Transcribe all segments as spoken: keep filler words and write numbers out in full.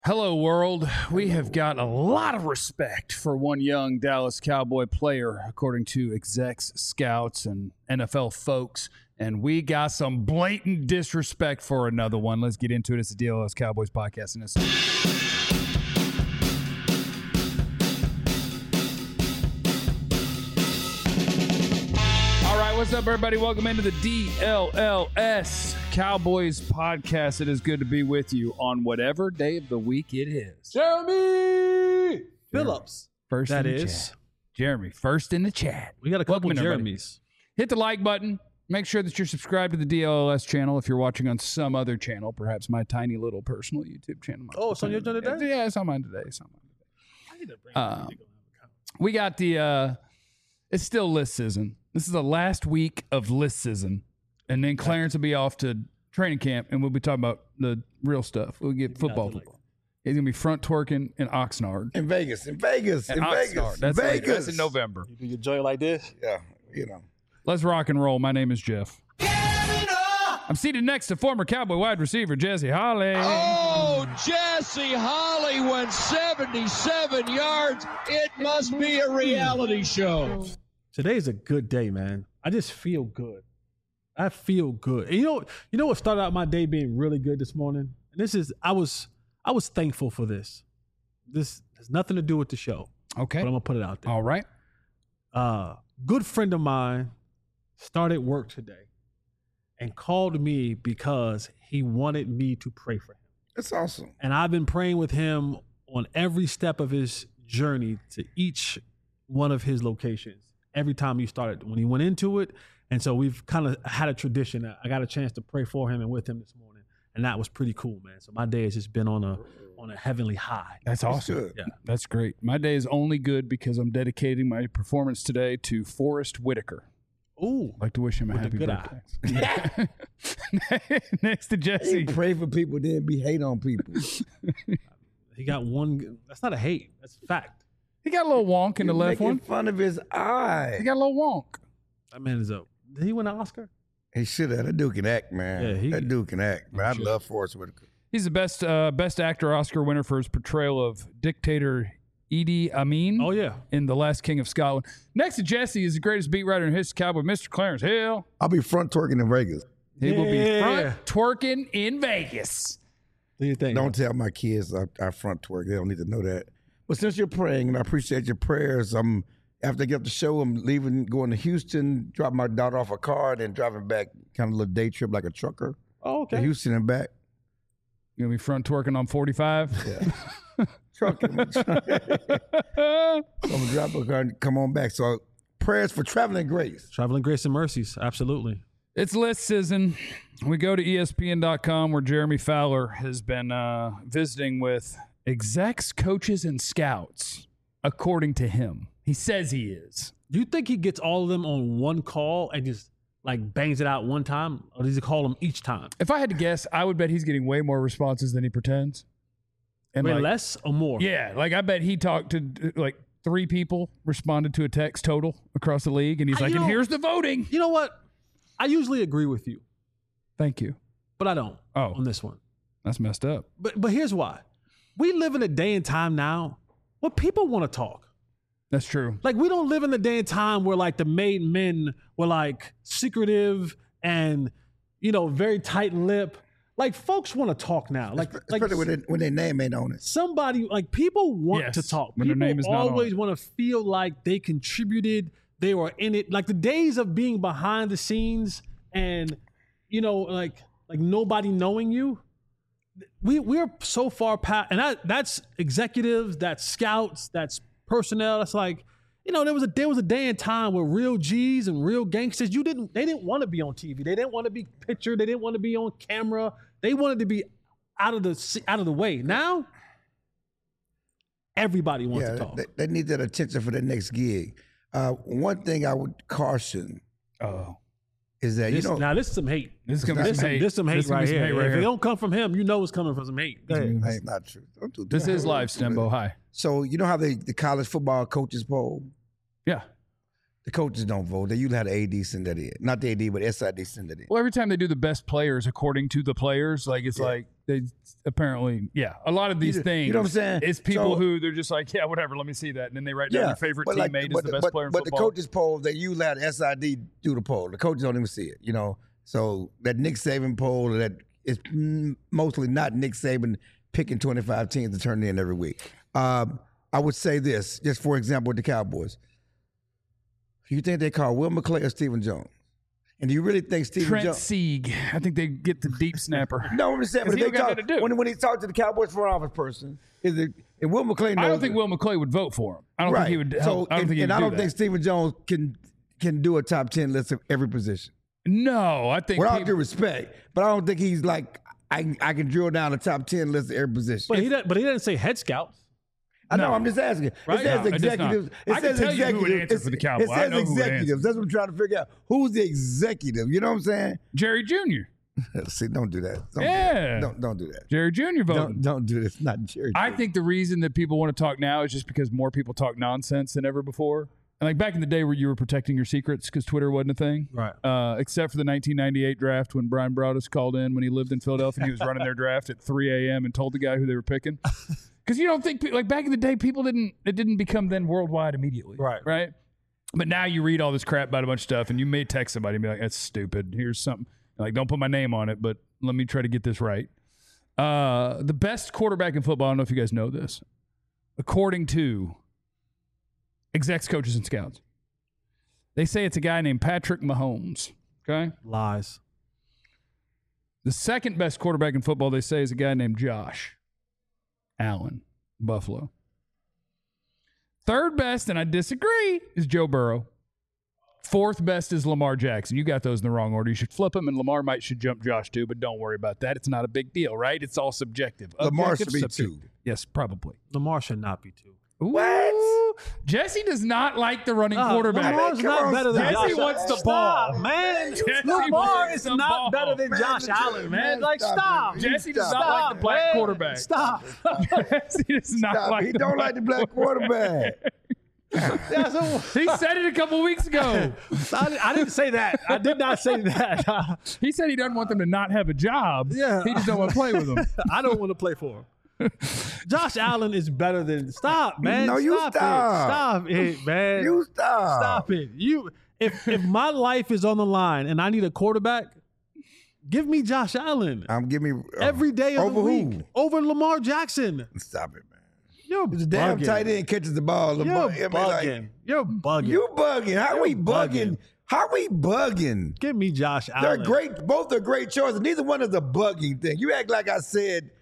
Hello, world. We have got a lot of respect for one young Dallas Cowboy player, according to execs, scouts, and N F L folks. And we got some blatant disrespect for another one. Let's get into it. It's the D L S Cowboys podcast. And it's all right, what's up, everybody? Welcome into the D L L S Cowboys podcast. It is good to be with you on whatever day of the week it is. Jeremy Phillips. First That in the is. chat. Jeremy, first in the chat. We got a couple Welcome in, everybody. Jeremys. Hit the like button. Make sure that you're subscribed to the D L L S channel if you're watching on some other channel, perhaps my tiny little personal YouTube channel. Oh, it's on your channel today? Yeah, it's on mine today. It's on mine today. I need to bring Um, We got the, uh, it's still list season. This is the last week of list season. And then Clarence will be off to training camp, and we'll be talking about the real stuff. We'll get football. like- football. He's going to be front twerking in Oxnard. In Vegas, in Vegas, In in Oxnard. Vegas, That's, like- Vegas. that's in November. You do your joy like this? Yeah, you know. Let's rock and roll. My name is Jeff. I'm seated next to former Cowboy wide receiver Jesse Holly. Oh, Jesse Holly went seventy-seven yards. It must be a reality show. Today's a good day, man. I just feel good. I feel good. And you know, you know what started out my day being really good this morning? And this is I was I was thankful for this. This has nothing to do with the show, Okay. but I'm gonna put it out there. All right. Uh, good friend of mine started work today and called me because he wanted me to pray for him. That's awesome. And I've been praying with him on every step of his journey to each one of his locations. Every time he started, when he went into it. And so we've kind of had a tradition. I got a chance to pray for him and with him this morning. And that was pretty cool, man. So my day has just been on a on a heavenly high. That's awesome. good. Yeah. That's great. My day is only good because I'm dedicating my performance today to Forrest Whitaker. Ooh. I'd like to wish him a With the happy good birthday. Next to Jesse. Pray for people, then be hate on people. He got one. That's not a hate. That's a fact. He got a little wonk in the You're left making one. fun of his eye. He got a little wonk. That man is up. Did he win an Oscar? He should have. That dude can act, man. Yeah, he- that dude can act. Man, I Sure. love Forrest Whitaker. He's the best uh, best actor Oscar winner for his portrayal of dictator Idi Amin Oh, yeah. in The Last King of Scotland. Next to Jesse is the greatest beat writer in history, Cowboy, Mister Clarence Hill. I'll be front twerking in Vegas. He will be Yeah. front twerking in Vegas. What do you think? Don't tell my kids I, I front twerk. They don't need to know that. But since you're praying, and I appreciate your prayers, I'm after I get off the show, I'm leaving, going to Houston, drop my daughter off a car, and then driving back, kind of a little day trip like a trucker Oh, to okay. Houston and back. You're going to be front twerking on forty-five? Yeah. Trucking. so I'm gonna drop a car and come on back. So prayers for traveling grace. Traveling grace and mercies. Absolutely. It's list season. We go to E S P N dot com where Jeremy Fowler has been uh, visiting with execs, coaches, and scouts, according to him. He says he is. Do you think he gets all of them on one call and just like bangs it out one time? Or does he call them each time? If I had to guess, I would bet he's getting way more responses than he pretends. And Wait, like, less or more? yeah, like I bet he talked to uh, like three people, responded to a text total across the league, and he's I- like, you and know- here's the voting. You know what? I usually agree with you, Thank you. but I don't Oh, on this one. that's messed up. But but here's why. We live in a day and time now where people want to talk. That's true. Like we don't live in the day and time where like the made men were like secretive and you know very tight lip. Like folks want to talk now. Like like Especially when, they, when their name ain't on it. somebody like people want Yes, to talk. when their People name is not on always it. want to feel like they contributed, they were in it. Like the days of being behind the scenes and you know like like nobody knowing you. We we're so far past, and that that's executives, that's scouts, that's personnel. That's like you know there was a there was a day and time where real G's and real gangsters you didn't they didn't want to be on T V. They didn't want to be pictured. They didn't want to be on camera. They wanted to be out of the out of the way. Now everybody wants Yeah, to talk. they, they need that attention for their next gig. Uh, one thing I would caution Oh, is that, This- you know, now this is some hate. this is gonna be This some some, hate. this some hate This is gonna right be some here. hate right if here. it don't come from him, you know it's coming from some hate. Go ahead. that's not true. Don't do This that. is live, Stembo. Hi. So you know how they, the college football coaches poll? Yeah. The coaches don't vote. They usually have the A D send that in. Not the A D, but S I D send that in. Well, every time they do the best players according to the players, like it's Yeah. like they apparently, yeah, a lot of these You- things. you know what I'm saying? It's people So- who they're just like, yeah, whatever, let me see that. And then they write down their favorite but like- teammate but, as the best but, player in but football. the coaches poll, they usually have the S I D do the poll. The coaches don't even see it, you know. So that Nick Saban poll, that is mm, mostly not Nick Saban picking twenty-five teams to turn in every week. Um, I would say this, just for example, with the Cowboys. You think they call Will McClay or Stephen Jones? And do you really think Stephen Trent Jones? Sieg. I think they get the deep snapper. No, I'm just saying. But 'Cause if he they don't got talk, nothing to do. when, when he talked to the Cowboys front office person, is it? And Will McClay knows I don't think it. Will McClay would vote for him. I don't right. think he would. So, Help. I don't and, think he and would I do don't that. think Stephen Jones can can do a top ten list of every position. No, I think With all people- due respect, but I don't think he's like I. I can drill down a top ten list of every position. But he didn't, but he didn't say head scouts. I know. No. I'm just asking. Right? It says No, it does not. executives. It I can says tell you who would executives. answer for the It- Cowboys. It I says know who would answer. executives. That's what I'm trying to figure out. Who's the executive? You know what I'm saying? Jerry Junior See, don't do that. Don't Yeah. Do that. Don't don't do that. Jerry Junior voted. Don't don't do this. Not Jerry. I think the reason that people want to talk now is just because more people talk nonsense than ever before. And like back in the day where you were protecting your secrets because Twitter wasn't a thing. Right. Uh, except for the nineteen ninety-eight draft when Brian Broaddus called in when he lived in Philadelphia and he was running their draft at three a.m. and told the guy who they were picking. Because you don't think, like back in the day, people didn't, it didn't become then worldwide immediately. Right. Right. But now you read all this crap about a bunch of stuff and you may text somebody and be like, that's stupid. Here's something. Like, don't put my name on it, but let me try to get this right. Uh, the best quarterback in football, I don't know if you guys know this, according to execs, coaches, and scouts, they say it's a guy named Patrick Mahomes. Okay. Lies. The second best quarterback in football, they say, is a guy named Josh Allen, Buffalo. Third best, and I disagree, is Joe Burrow. Fourth best is Lamar Jackson. You got those in the wrong order. You should flip them, and Lamar might should jump Josh too, but don't worry about that. It's not a big deal, right? It's all subjective. Lamar Objective, should be subjective. two. Yes, probably. Lamar should not be two. What? Jesse does not like the running Uh, quarterback. Lamar's Come not on, better than Jesse Josh. wants the Stop, ball. man. Jesse Lamar wants is the not ball. better than Man, Josh man, Allen, man. man, Like, stop stop. it. Jesse does Stop, not like the black man. quarterback. Stop. Jesse does not Stop. like He the don't black like the black quarterback. Yeah, so- He said it a couple weeks ago. I, I didn't say that. I did not say that. He said he doesn't want them to not have a job. Yeah. He just don't want to play with them. I don't want to play for him. Josh Allen is better than. Stop, man. No, you stop. stop. It. Stop it, man. You stop. Stop it. You. If if my life is on the line and I need a quarterback, give me Josh Allen I'm giving me uh, every day of over the week who? over Lamar Jackson. Stop it, man. You're The damn bugging. tight end catches the ball. You're Lamar- I mean, like, bugging. You're bugging. you bugging. How we You're bugging? bugging. How we bugging? Give me Josh They're Allen. great. Both are great choices. Neither one is a bugging thing. You act like I said.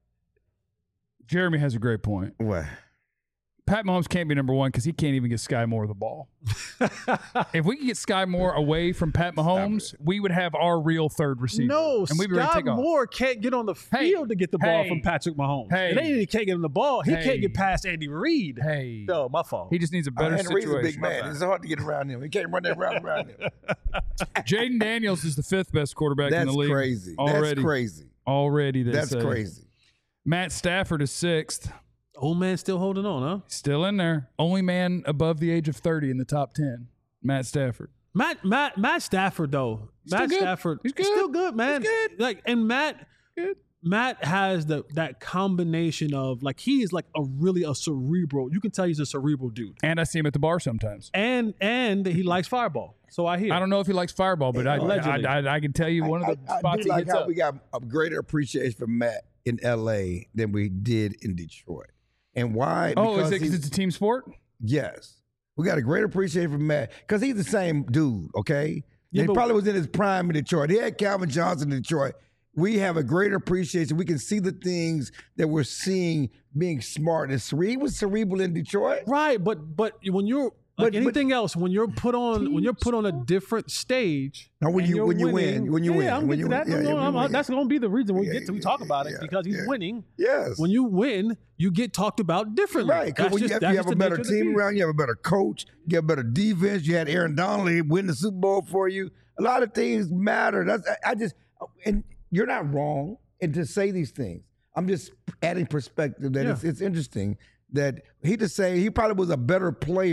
Jeremy has a great point. What? Pat Mahomes can't be number one because he can't even get Sky Moore the ball. If we could get Sky Moore away from Pat Mahomes, we would have our real third receiver. No, and we'd be ready to Scott take off. Moore can't get on the Hey, field to get the ball hey, from Patrick Mahomes. hey, and they he can't get him the ball. He hey. can't get past Andy Reid. Hey, No, my fault. he just needs a better Uh, Andy Reid's situation. a big man. It's hard to get around him. He can't run that route around him. Jaden Daniels is the fifth best quarterback in That's the league. crazy. Already, That's crazy. Already, they That's say. crazy. Matt Stafford is sixth. Old man still holding on, huh? Still in there. Only man above the age of thirty in the top ten. Matt Stafford. Matt Matt Matt Stafford though. Still Matt good. Stafford He's good. still good, man. He's good. Like and Matt Good. Matt has the that combination of like he is like a really a cerebral. You can tell he's a cerebral dude. And I see him at the bar sometimes. And and he likes fireball. So I hear. I don't know if he likes Fireball, but I, Allegedly. I, I, I can tell you one of the I, I, spots I do he like hits how up. we got a greater appreciation for Matt in L A than we did in Detroit. And why? Oh, is it he's- because it's a team sport? Yes. We got a great appreciation for Matt because he's the same dude, okay? Yeah, he but- probably was in his prime in Detroit. He had Calvin Johnson in Detroit. We have a greater appreciation. We can see the things that we're seeing being smart and cerebral. He was cerebral in Detroit. Right, but but when you're like But- but- anything else, when you're put on when you're put on a different stage, No, when and you- you're when you winning- win, when you yeah, win, I'm when getting you to that. win. Yeah, No, yeah, no, when I'm- you win. that's going to be the reason we Yeah, get to we yeah, talk about it yeah, because he's yeah. winning. Yes. When you win, you get talked about differently. Right, because That's when you, just- have, that's you have just a the better nature of the team beast. around, you have a better coach, you have a better defense. You had Aaron Donald win the Super Bowl for you. A lot of things matter. That's I, I just and you're not wrong and to say these things. I'm just adding perspective that Yeah. it's, it's interesting that he just say he probably was a better player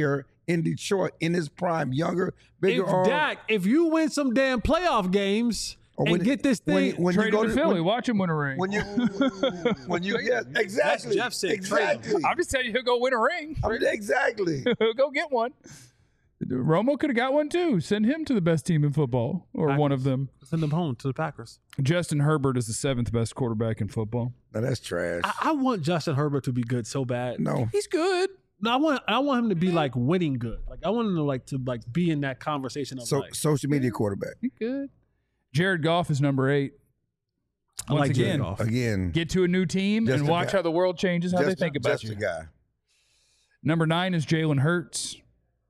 in Detroit in his prime, younger, bigger If arm. Dak, if you win some damn playoff games Or and get this thing, when, when Trade you go him to to Philly. when, Watch him win a ring. when you when you yeah exactly Jeff said, trade him. exactly I'm just telling you, he'll go win a ring. I mean, exactly. He'll go get one. Romo could have got one too. Send him to the best team in football, or one of them. send them home to the Packers. Justin Herbert is the seventh best quarterback in football. No, that's trash. I, I want Justin Herbert to be good so bad. no, He's good. No, I want I want him to be like winning good. Like I want him to like to like be in that conversation of so like social media quarterback He's good. Jared Goff is number eight. I Once like Jared again, Goff. again. get to a new team Just and a watch guy. how the world changes, how just, they think about just you. a guy. Number nine is Jalen Hurts.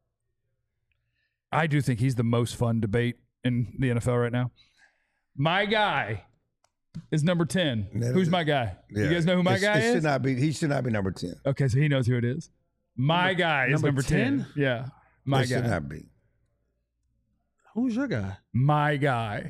I do think he's the most fun debate in the N F L right now. My guy is number ten. That Who's is- my guy? Yeah. You guys know who my It- guy it is? Should not be. He should not be number ten. Okay, so he knows who it is. My guy is number number ten. ten? Yeah, my It should guy. not be. Who's your guy? My guy.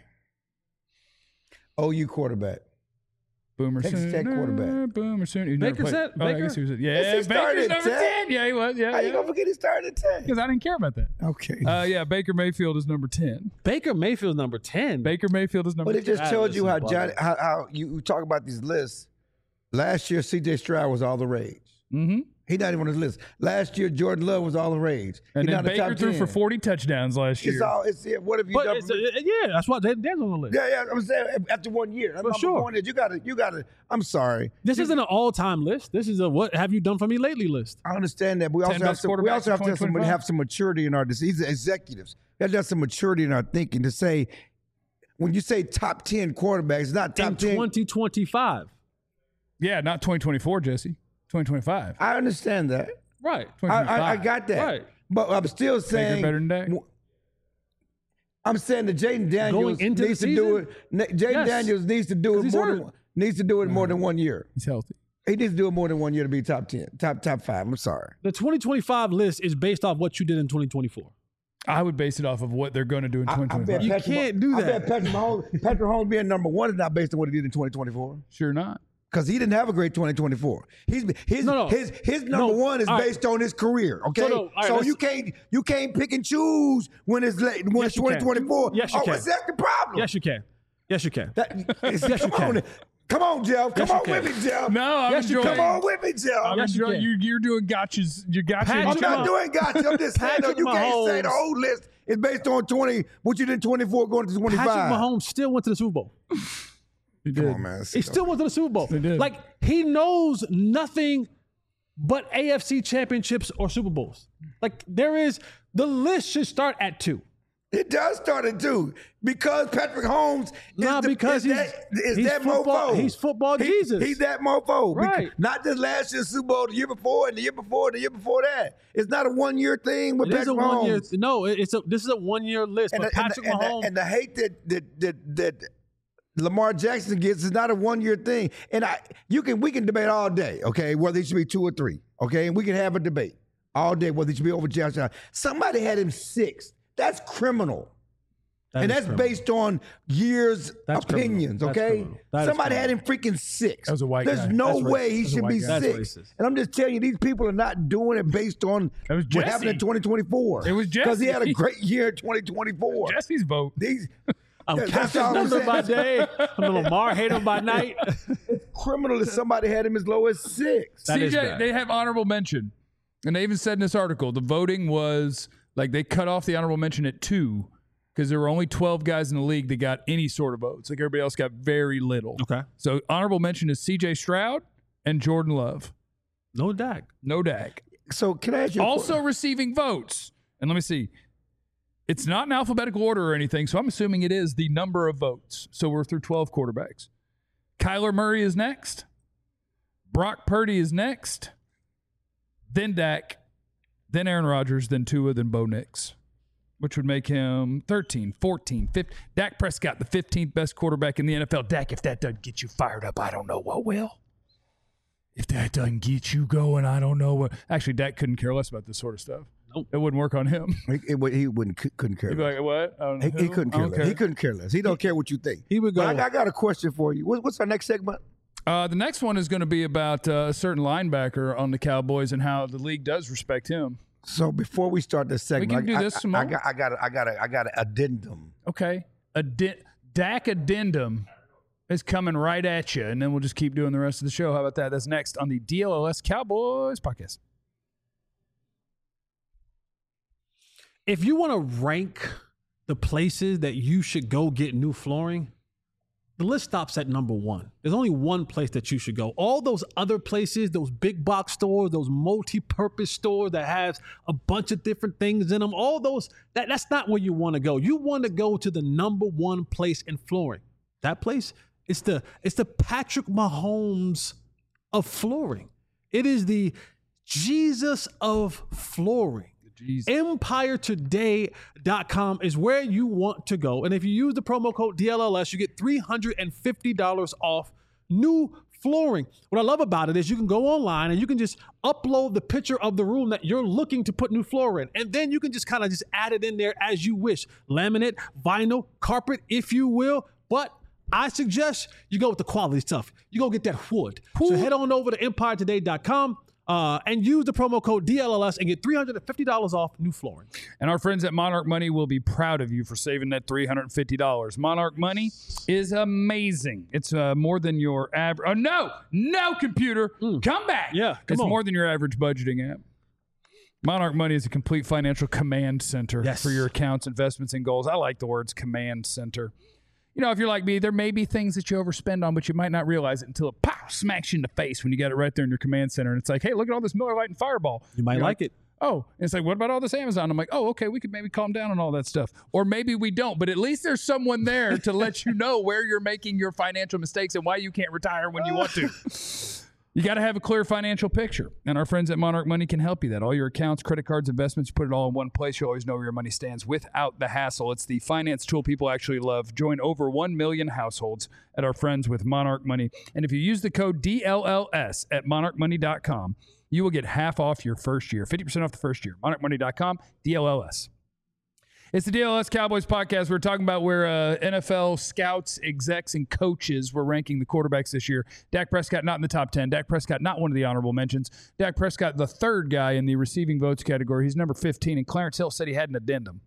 O U quarterback. Boomer Texas Sooner. Tech quarterback. Boomer Sooner. He's never Baker played- said- Oh, I Baker? guess he was. Yeah, Yes, he started Baker's at number ten. ten. Yeah, he was. Yeah, How you yeah. gonna forget he started at ten? Because I didn't care about that. Okay. Uh, yeah, Baker Mayfield is number ten. Baker Mayfield's number ten. Baker Mayfield is number But it ten. just That tells is you how bugging. Johnny, how, how you, you talk about these lists. Last year, C J Stroud was all the rage. Mm-hmm. He not even on his list. Last year, Jordan Love was all the rage. And He then not in the Baker top threw ten. for forty touchdowns last year. It's all. It's yeah, what have you But done? it's, For, uh, yeah, that's what that, that's on the list. yeah, yeah. I'm saying after one year. For My sure. point is, you got to, you got to. I'm sorry. This isn't an all-time list. This is a what have you done for me lately list. I understand that, but we ten also have best some, we quarterbacks also have in to have, some, twenty twenty-five. have some maturity in our decisions. Executives, we have to have some maturity in our thinking to say when you say top ten quarterbacks, it's not top In ten. twenty twenty-five. Yeah, not twenty twenty-four, Jesse. twenty twenty-five. I understand that. Right. I, I, I got that. Right. But I'm still saying better than Dak? I'm saying that Jaden Daniels Going into the needs to do season? it. Na- Jaden Yes. Daniels needs to do 'Cause it he's more hurt. than needs to do it more than one year. He's healthy. He needs to do it more than one year to be top ten, top top five. I'm sorry. The twenty twenty-five list is based off what you did in twenty twenty-four. I would base it off of what they're going to do in I- I twenty twenty-five. bet You Patrick can't Mah- do I that. bet Patrick Mahomes, Patrick Mahomes being number one is not based on what he did in twenty twenty-four. Sure not. Because he didn't have a great twenty twenty-four. He's his No, no. his his number No, one is all right. based on his career. Okay, So, no, all right, so let's- you can't you can't pick and choose when it's late when Yes, it's you can. twenty twenty-four. Yes, you oh, can. is that the problem? Yes, you can. Yes, you can. That, Yes, you come can. on, come on, Jeff. Come Yes, you on can. with me, Jeff. No, I'm Yes, you enjoying. Come on with me, Jeff. I'm Yes, you enjoying. can. You, you're doing gotchas. You gotcha. Patrick I'm and not Mahomes. doing gotcha. I'm just saying, though, Patrick you can't say the Mahomes- whole list is based on twenty, what you did in twenty-four going to twenty-five. Patrick Mahomes still went to the Super Bowl. He Come did. on, man. He still went to the Super Bowl. He did. Like he knows nothing but A F C championships or Super Bowls. Like there is the list should start at two. It does start at two because Patrick Holmes is, Nah, the, because is he's- that, is he's that football- mofo. he's football He- Jesus. He's that mofo. Beca- Right. Not just last year's Super Bowl, the year before, and the year before, and the year before that. It's not a one year thing with It is a Patrick one year. Mahomes. No, it- it's a. This is a one year list. And But the, and, Patrick the, and, Mahomes. the, and the hate that that that, that Lamar Jackson gets is not a one year thing. And I you can we can debate all day, okay, whether he should be two or three. Okay, and we can have a debate all day whether he should be over Josh Allen. Somebody had him sixth. That's criminal. That and is that's criminal. based on years' That's opinions, criminal. That's okay? criminal. That is Somebody had criminal. him freaking six. That was a white There's guy. no That's way racist. he That's a should white be guy. That's six. racist. And I'm just telling you, these people are not doing it based on That was what happened in Jesse. twenty twenty-four. It was Because he had a Jesse. great year in twenty twenty-four. Jesse's vote. These I'm that's Captain all I'm Thunder by saying. day. I'm a Lamar hater by night. criminal that somebody had him as low as six. That is C J, bad. they have honorable mention. And they even said in this article, the voting was like they cut off the honorable mention at two because there were only twelve guys in the league that got any sort of votes. Like everybody else got very little. Okay. So honorable mention is C J Stroud and Jordan Love. No Dak. No Dak. So can I ask you a Also question? receiving votes. And let me see. It's not in alphabetical order or anything, so I'm assuming it is the number of votes. So we're through twelve quarterbacks. Kyler Murray is next. Brock Purdy is next. Then Dak. Then Aaron Rodgers. Then Tua. Then Bo Nix. Which would make him thirteen, fourteen, fifteen. Dak Prescott, the fifteenth best quarterback in the N F L. Dak, if that doesn't get you fired up, I don't know what will. If that doesn't get you going, I don't know what. Actually, Dak couldn't care less about this sort of stuff. Nope. It wouldn't work on him. He, it would- he wouldn't couldn't care. He'd be less. like, what? I don't He, know he who? couldn't I care don't less. care. He couldn't care less. He don't care what you think. He would go. But I, I got a question for you. What, what's our next segment? Uh, the next one is going to be about uh, a certain linebacker on the Cowboys and how the league does respect him. So before we start this segment, can do I, this I, some I, more. got, I got, I got, I got an addendum. Okay. Addi- Dak addendum is coming right at you, and then we'll just keep doing the rest of the show. How about that? That's next on the D L L S Cowboys podcast. If you want to rank the places that you should go get new flooring, the list stops at number one. There's only one place that you should go. All those other places, those big box stores, those multi-purpose stores that has a bunch of different things in them, all those, that, that's not where you want to go. You want to go to the number one place in flooring. That place, it's the, it's the Patrick Mahomes of flooring. It is the Jesus of flooring. Empire Today dot com is where you want to go. And if you use the promo code D L L S, you get three hundred fifty dollars off new flooring. What I love about it is you can go online and you can just upload the picture of the room that you're looking to put new floor in. And then you can just kind of just add it in there as you wish. Laminate, vinyl, carpet, if you will. But I suggest you go with the quality stuff. You go get that wood. So head on over to Empire Today dot com. Uh, and use the promo code D L L S and get three hundred fifty dollars off new flooring. And our friends at Monarch Money will be proud of you for saving that three hundred fifty dollars. Monarch Money is amazing. It's uh, more than your average. Oh, no, no, computer. Mm. Come back. Yeah, come It's on. more than your average budgeting app. Monarch Money is a complete financial command center Yes. for your accounts, investments, and goals. I like the words command center. You know, if you're like me, there may be things that you overspend on, but you might not realize it until it pow, smacks you in the face when you got it right there in your command center. And it's like, hey, look at all this Miller Lite and Fireball. You might You're like it. Oh, and it's like, what about all this Amazon? I'm like, oh, okay, we could maybe calm down on all that stuff. Or maybe we don't, but at least there's someone there to let you know where you're making your financial mistakes and why you can't retire when you want to. You got to have a clear financial picture, and our friends at Monarch Money can help you that. All your accounts, credit cards, investments, you put it all in one place. You always know where your money stands without the hassle. It's the finance tool people actually love. Join over one million households at our friends with Monarch Money. And if you use the code D L L S at monarch money dot com, you will get half off your first year, fifty percent off the first year. monarch money dot com, D L L S. It's the D L S Cowboys podcast. We're talking about where uh, N F L scouts, execs, and coaches were ranking the quarterbacks this year. Dak Prescott not in the top ten. Dak Prescott not one of the honorable mentions. Dak Prescott, the third guy in the receiving votes category. He's number fifteen, and Clarence Hill said he had an addendum.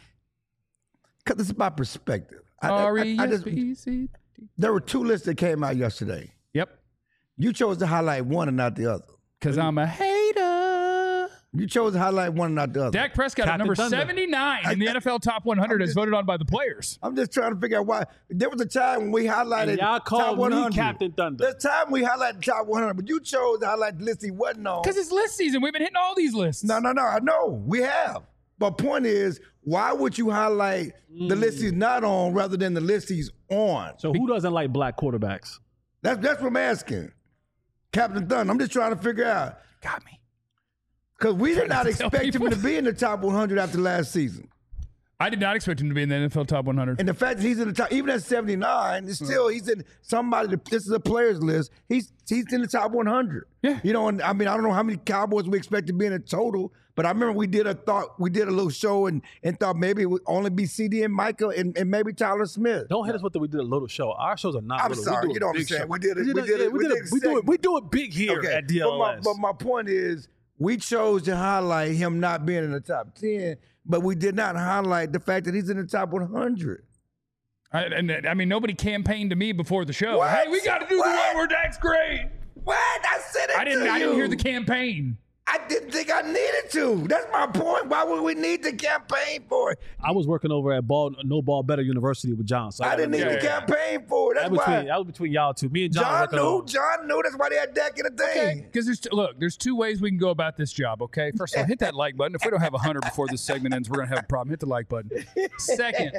Because it's about perspective. I, I, R I, E I S just, P C. there were two lists that came out yesterday. Yep, You chose to highlight one and not the other. because I'm a hater. You chose to highlight one and not the other. Dak Prescott at Captain number Thunder. seventy-nine in the N F L top one hundred as voted on by the players. I'm just trying to figure out why. There was a time when we highlighted And y'all top called one me hundred. Captain Thunder. There's time we highlighted the top one hundred, but you chose to highlight the list he wasn't on. Because it's list season. We've been hitting all these lists. No, no, no. I know. We have. But point is, why would you highlight the list he's not on rather than the list he's on? So who doesn't like black quarterbacks? That's that's what I'm asking. Captain Thunder. I'm just trying to figure out. Got me. Because we did not to tell expect him people. to be in the top one hundred after last season. I did not expect him to be in the N F L top one hundred. And the fact that he's in the top, even at seventy-nine, it's still, he's in somebody, that- this is a players list. He's he's in the top one hundred. Yeah. You know, and I mean, I don't know how many Cowboys we expect to be in a total, but I remember we did a thought, we did a little show and, and thought maybe it would only be C D and Michael and, and maybe Tyler Smith. Don't hit us with the we did a little show. Our shows are not I'm little. sorry, we do you a know what I'm big saying. show. We did it- We we did did yeah, it- we we did did it- a we do it. segment. We do it big here at D L S. But my, but my point is, we chose to highlight him not being in the top ten, but we did not highlight the fact that he's in the top one hundred. I, and I mean, nobody campaigned to me before the show. What? Hey, we got to do What? the one where Dak's great. What? I said it I didn't. to I didn't you. hear the campaign. I didn't think I needed to. That's my point. Why would we need to campaign for it? I was working over at Ball No Ball Better University with John. So I didn't need yeah, to yeah. campaign for it. That's That was why. between, that was between y'all two. Me and John. John working knew. over. John knew. That's why they had Dak in the thing. Okay, because there's look, there's two ways we can go about this job. Okay, first of all, hit that like button. If we don't have a hundred before this segment ends, we're gonna have a problem. Hit the like button. Second,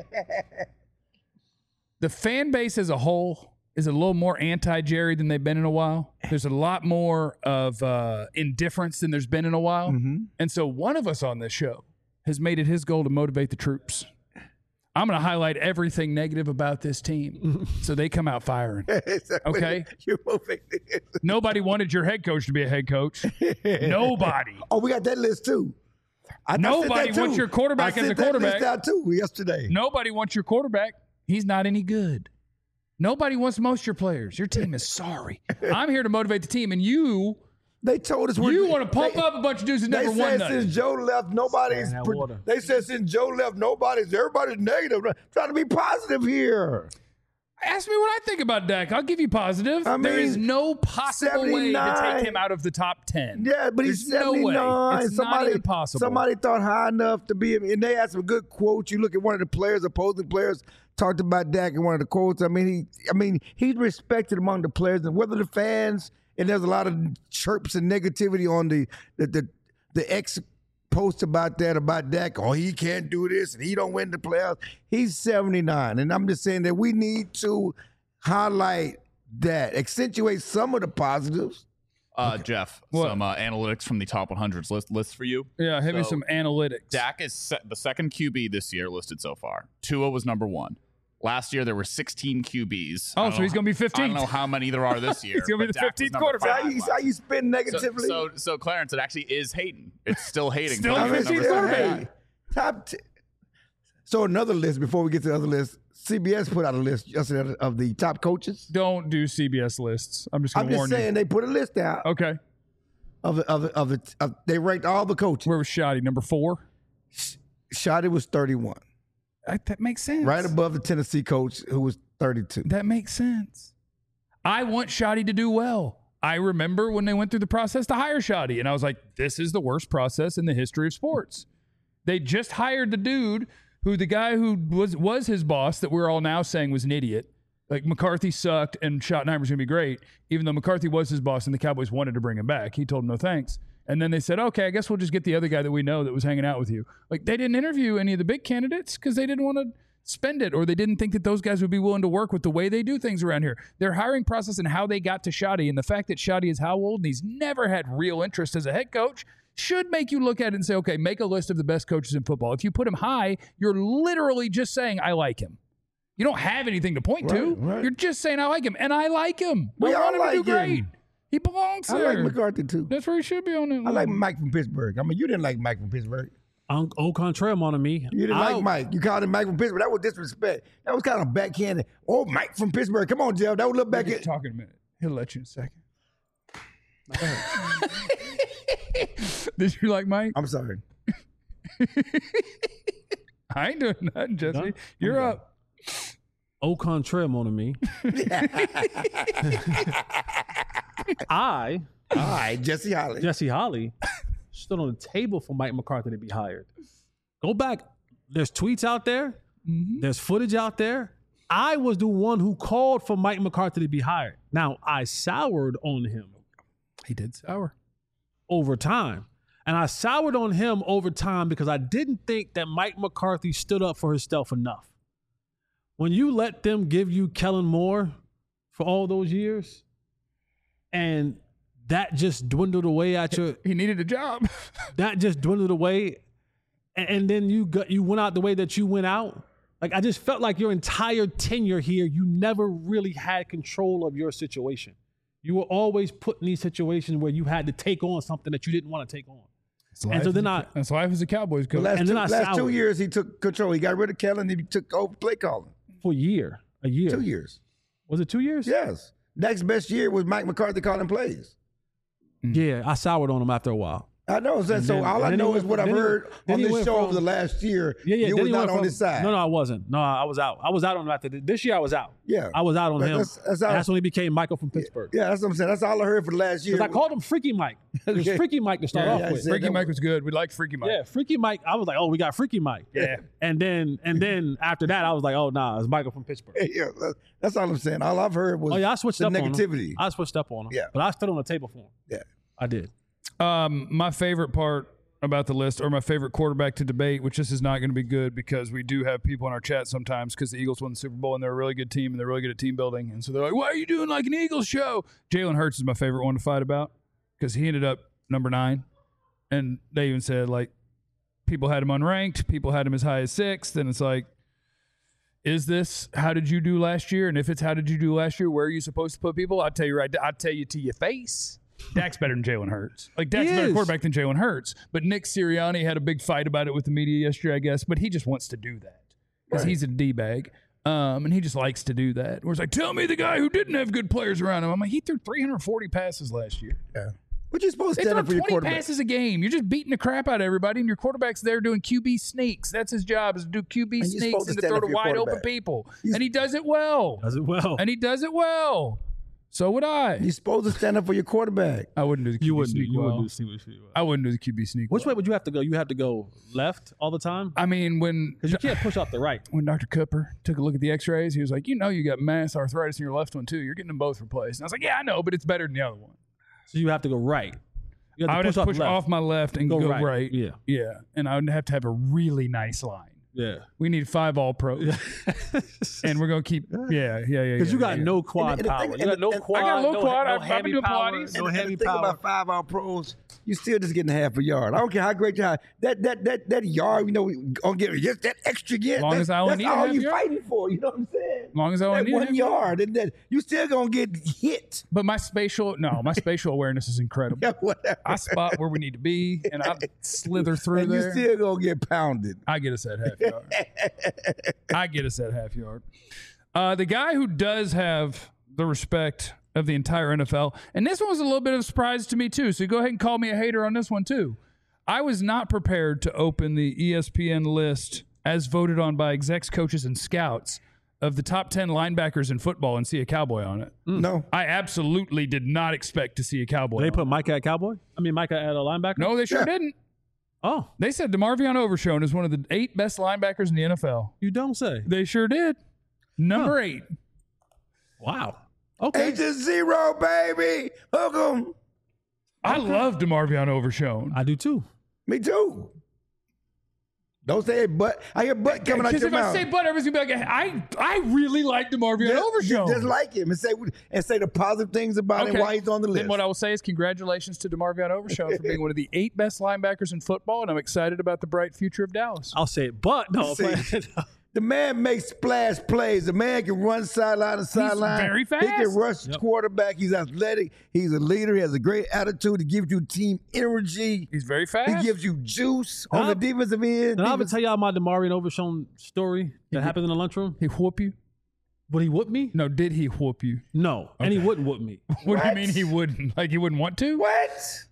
the fan base as a whole is a little more anti-Jerry than they've been in a while. There's a lot more of uh, indifference than there's been in a while. Mm-hmm. And so one of us on this show has made it his goal to motivate the troops. I'm going to highlight everything negative about this team so they come out firing. Okay? You're moving. Nobody wanted your head coach to be a head coach. Nobody. Oh, we got that list too. I, I Nobody sent that wants too. your quarterback I as sent a that quarterback. list out too yesterday. Nobody wants your quarterback. He's not any good. Nobody wants most of your players. Your team is sorry. I'm here to motivate the team, and you They told us we're, You want to pump they, up a bunch of dudes that They never said won nothing. since Joe left, nobody's. Stand that Pre- water. they said since Joe left, nobody's. Everybody's negative. Trying to be positive here. Ask me what I think about Dak. I'll give you positive. I there is mean, no possible way to seventy-nine. take him out of the top ten. Yeah, but he's There's no way. seventy-nine. It's somebody, not even possible. somebody thought high enough to be, and they had some good quotes. You look at one of the players, opposing players, talked about Dak in one of the quotes. I mean, he, I mean, he's respected among the players, and whether the fans, and there's a lot of chirps and negativity on the the the, the ex post about that about Dak. Oh, he can't do this, and he don't win the playoffs. He's seventy-nine, and I'm just saying that we need to highlight that, accentuate some of the positives. Uh, Jeff, What? some uh, analytics from the top one hundreds list list for you. Yeah, hit me So, some analytics. Dak is se- the second Q B this year listed so far. Tua was number one. Last year there were sixteen Q Bs. Oh, I don't so know he's how- gonna be I fifteenth. don't know how many there are this year. He's gonna be but the Dak was fifteenth number quarterback. five How you, last how you year. spin negatively? So, so, so Clarence, it actually is Hayden. It's still Hayden. Still Clarence I mean, is number still, quarterback. seven. hey, top ten. So another list before we get to the other list. C B S put out a list yesterday of the top coaches. Don't do C B S lists. I'm just gonna I'm just warn saying they put a list out you. Okay. of the, of the, of the of, they ranked all the coaches. Where was Shoddy? Number four? Shotty was thirty-one, I, that makes sense. right above the Tennessee coach who was thirty-two. That makes sense. I want Shoddy to do well. I remember when they went through the process to hire Shoddy, and I was like, this is the worst process in the history of sports. They just hired the dude who the guy who was was his boss that we're all now saying was an idiot. Like McCarthy sucked and Schottenheimer's going to be great, even though McCarthy was his boss and the Cowboys wanted to bring him back. He told him no thanks. And then they said, okay, I guess we'll just get the other guy that we know that was hanging out with you. Like they didn't interview any of the big candidates because they didn't want to spend it, or they didn't think that those guys would be willing to work with the way they do things around here. Their hiring process and how they got to Shoddy, and the fact that Shoddy is how old and he's never had real interest as a head coach, should make you look at it and say, okay, make a list of the best coaches in football. If you put him high, you're literally just saying, I like him. You don't have anything to point to. Right, right. You're just saying, I like him. And I like him. We I all want him to do like great. him. He belongs I there. like McCarthy too. That's where he should be on it. I like Mike from Pittsburgh. I mean, you didn't like Mike from Pittsburgh. Un- au contraire, mon ami. You didn't I- like Mike. You called him Mike from Pittsburgh. That was disrespect. That was kind of backhanded. Oh, Mike from Pittsburgh. Come on, Jeff. That was a little We'll back. get to talk in a minute. He'll let you in a second. Did you like Mike? I'm sorry. I ain't doing nothing, Jesse. Done? You're up. Au contraire, mon ami. I, All right, Jesse Holly. Jesse Holly, stood on the table for Mike McCarthy to be hired. Go back. There's tweets out there. There's footage out there. I was the one who called for Mike McCarthy to be hired. Now, I soured on him He did sour. over time. And I soured on him over time because I didn't think that Mike McCarthy stood up for himself enough. When you let them give you Kellen Moore for all those years, and that just dwindled away at your He needed a job. that just dwindled away, and, and then you got you went out the way that you went out. Like I just felt like your entire tenure here, you never really had control of your situation. You were always put in these situations where you had to take on something that you didn't want to take on. And so then I That's life as a Cowboys The coach. last, And two, then I last two soured. years, he took control. He got rid of Kellen. He took over play calling. for a year, a year. Two years. Was it two years? Yes. Next best year was Mike McCarthy calling plays. Yeah, I soured on him after a while. I know. So, And so then- all and I then he know went is what from- I've then he heard went- then on he this went show from- over the last year. Yeah, yeah. You then was he not went on from- this side. No, no, I wasn't. No, I was out. I was out on him after th- this year. I was out. Yeah. I was out on But him. that's- that's how- that's when he became Michael from Pittsburgh. Yeah, that's what I'm saying. That's all I heard for the last year. Because I called him Freaky Mike. It was Okay. Freaky Mike to start Yeah, off yeah, I with. said- Freaky that Mike was- was good. We like Freaky Mike. Yeah, Freaky Mike. I was like, oh, we got Freaky Mike. Yeah. And then and then after that, I was like, oh, nah, it's Michael from Pittsburgh. Yeah, that- that's all I'm saying. All I've heard was Oh, yeah, I switched the up negativity. on him. I switched up on him. Yeah. But I stood on the table for him. Yeah. I did. Um, my favorite part about the list, or my favorite quarterback to debate, which this is not going to be good because we do have people in our chat sometimes because the Eagles won the Super Bowl and they're a really good team and they're really good at team building. And so they're like, why are you doing like an Eagles show? Jalen Hurts is my favorite one to fight about because he ended up number nine. And they even said, like, people had him unranked. People had him as high as sixth. And it's like, is this how did you do last year? And if it's how did you do last year, where are you supposed to put people? I'll tell you right, I'll tell you to your face. Dak's better than Jalen Hurts. Like, Dak's He a better is. quarterback than Jalen Hurts. But Nick Sirianni had a big fight about it with the media yesterday, I guess. But he just wants to do that because Right. he's a D-bag. Um, and he just likes to do that. Where it's like, tell me the guy who didn't have good players around him. I'm like, he threw three hundred forty passes last year. Yeah. What you supposed to They stand throw up for your twenty quarterback? passes a game. You're just beating the crap out of everybody, and your quarterback's there doing Q B sneaks. That's his job, is to do Q B And you're sneaks supposed to and to stand throw up to for your wide open quarterback. people. He's- And he does it well. Does it well. And he does it well. So would I. You're supposed to stand up for your quarterback. I wouldn't do the Q B You wouldn't do. sneak You well. wouldn't do. See what you. I wouldn't do the Q B sneak Which well. way would you have to go? You have to go left all the time I mean, when because you can't push off the right. when Doctor Cooper took a look at the x-rays, he was like, you know you got mass arthritis in your left one too. You're getting them both replaced. And I was like, yeah, I know, but it's better than the other one. So you have to go right. You I would have to push left. off my left and Go go, right. right. Yeah. Yeah. And I would have to have a really nice line. Yeah. We need five all pros. And we're going to keep, yeah, yeah, yeah. Because yeah, you got yeah. no quad And the- and the power. thing- You got and- no and- quad. I got a little no, quad. No I've- I've heavy been doing power. Pilates. No And heavy the thing power. about five hour pros, you still just getting half a yard. I don't care how great you are. That that that that yard, you know, gonna get just that extra yard. Long that, as I only that's need a all half you yard. fighting for. You know what I'm saying? As long as I only that need a one half yard, and that you still gonna get hit. But my spatial, no, my spatial awareness is incredible. Yeah, whatever. I spot where we need to be, and I slither through and you there. still gonna get pounded. I get us at half yard. I get us at half yard. Uh, the guy who does have the respect of the entire N F L, and this one was a little bit of a surprise to me too, so go ahead and call me a hater on this one too. I was not prepared to open the E S P N list as voted on by execs, coaches, and scouts of the top ten linebackers in football and see a Cowboy on it. No, I absolutely did not expect to see a Cowboy They on put it. Micah at Cowboy? I mean, Micah at a linebacker? No, they sure Yeah. didn't. Oh, They said DeMarvion Overshown is one of the eight best linebackers in the N F L. you don't say. They sure did. Number eight. Wow. Okay. eight to zero, baby. Hook 'em. I love DeMarvion Overshown. I do too. Me too. Don't say it, but I hear butt coming out Because your if I mouth. say butt, everybody's gonna be like, I, I really like DeMarvion just, Overshown. just like him and say and say the positive things about him Okay. and why he's on the list. Then what I will say is congratulations to DeMarvion Overshown for being one of the eight best linebackers in football, and I'm excited about the bright future of Dallas. I'll say it, but no. See, the man makes splash plays. The man can run sideline to sideline. very He can fast. rush quarterback. He's athletic. He's a leader. He has a great attitude. He gives you team energy. He's very fast. He gives you juice on I'll- the defensive end. And I'll even Defense- tell y'all my DeMarvion Overshown story that happened in the lunchroom. He whoop you? Would he whoop me? No, did he whoop you? No. And he wouldn't whoop me. What, do you What? mean he wouldn't? Like he wouldn't want to? What?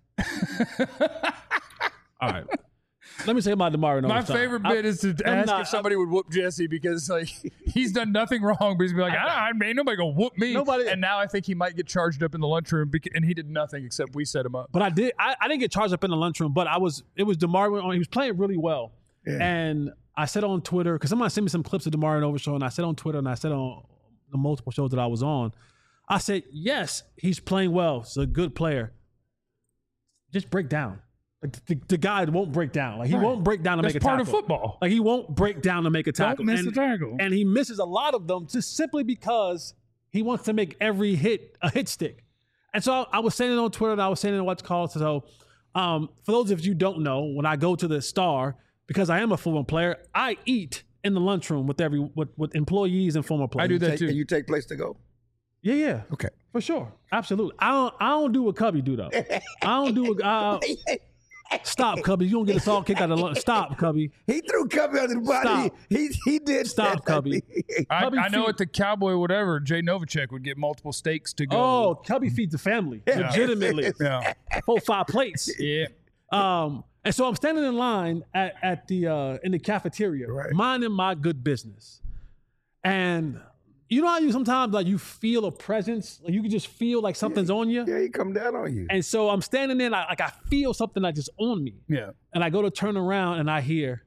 All right. Let me say my DeMarvion Overshown. My favorite bit I- is to I'm ask not- if somebody would whoop Jesse because like he's done nothing wrong, but he's be like, I, I ain't nobody gonna whoop me. Nobody- And now I think he might get charged up in the lunchroom, bec- and he did nothing except we set him up. But I did. I, I didn't get charged up in the lunchroom, but I was. It was DeMarvion. He was playing really well, and I said on Twitter because somebody sent me some clips of DeMarvion Overshown, and I said on Twitter, and I said on the multiple shows that I was on, I said, yes, he's playing well. He's a good player. Just break down. Like the, the guy won't break down. Like he Right. won't break down to That's make a part tackle. of football. Like he won't break down to make a tackle. miss and, the tackle. And he misses a lot of them just simply because he wants to make every hit a hit stick. And so I, I was saying it on Twitter and I was saying it on what's called. So um, for those of you who don't know, when I go to the Star, because I am a football player, I eat in the lunchroom with every with, with employees and former players. I do that Take- too. and you take place to go? Yeah, yeah. Okay. For sure. Absolutely. I don't I don't do what Cubby do though. I don't do what uh, stop, Cubby. You don't get us all kicked out of lunch. Stop, Cubby. He threw Cubby under the body. Stop. He he did Stop, that. Cubby. I, Cubby I know feet- at the Cowboy whatever, Jay Novacek would get multiple steaks to go. Oh, Cubby feeds the family. Legitimately. yeah, Four, five plates. yeah. Um, and so I'm standing in line at, at the uh, in the cafeteria, Right. minding my good business. And you know how you sometimes like you feel a presence, like you can just feel like something's on you. Yeah, he come down on you. And so I'm standing there, and I, like I feel something like just on me. Yeah. And I go to turn around, and I hear,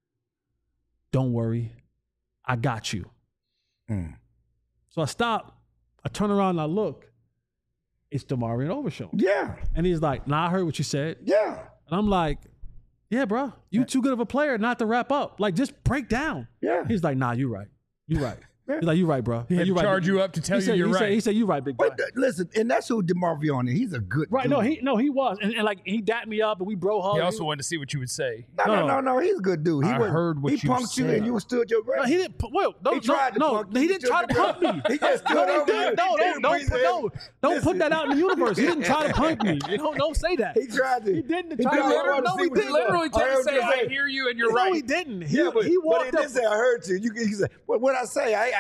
"Don't worry, I got you." Mm. So I stop. I turn around and I look. It's DeMarvion Overshown. Yeah, And he's like, "Nah, I heard what you said." yeah, And I'm like, yeah, bro, you too good of a player not to wrap up. Like, just break down. yeah. He's like, nah, you right. You right. He's like, you right, bro. He had you to right. charge you up to tell he you said, you're he right. Said, he said, you right, big guy. Wait, th- listen, and that's who DeMarvion is. He's a good Right, dude. no, he no, he was. And, and like, he dapped me up and we bro hugged. He also wanted to see what you would say. No, no, No. no, no. He's a good dude. He I wasn't- heard what he you punked you said. and you stood your No, ground. he didn't, pu- well, no, He tried no, to no, punk you. he He didn't try to stood punk your me. ground. He just stood no, he over didn't. you. No, He no, didn't don't, breathe put, in. no, don't Listen. put that out in the universe. He didn't try to punk me. You don't, don't say that. He tried to. He didn't He try tried to- I wanna no, see he what didn't. you Literally got. tried I to heard say, you I hear you and you're no, right. he didn't. He, Yeah, but, he but walked he up. didn't say I heard you. You, he said, well, what I say, I,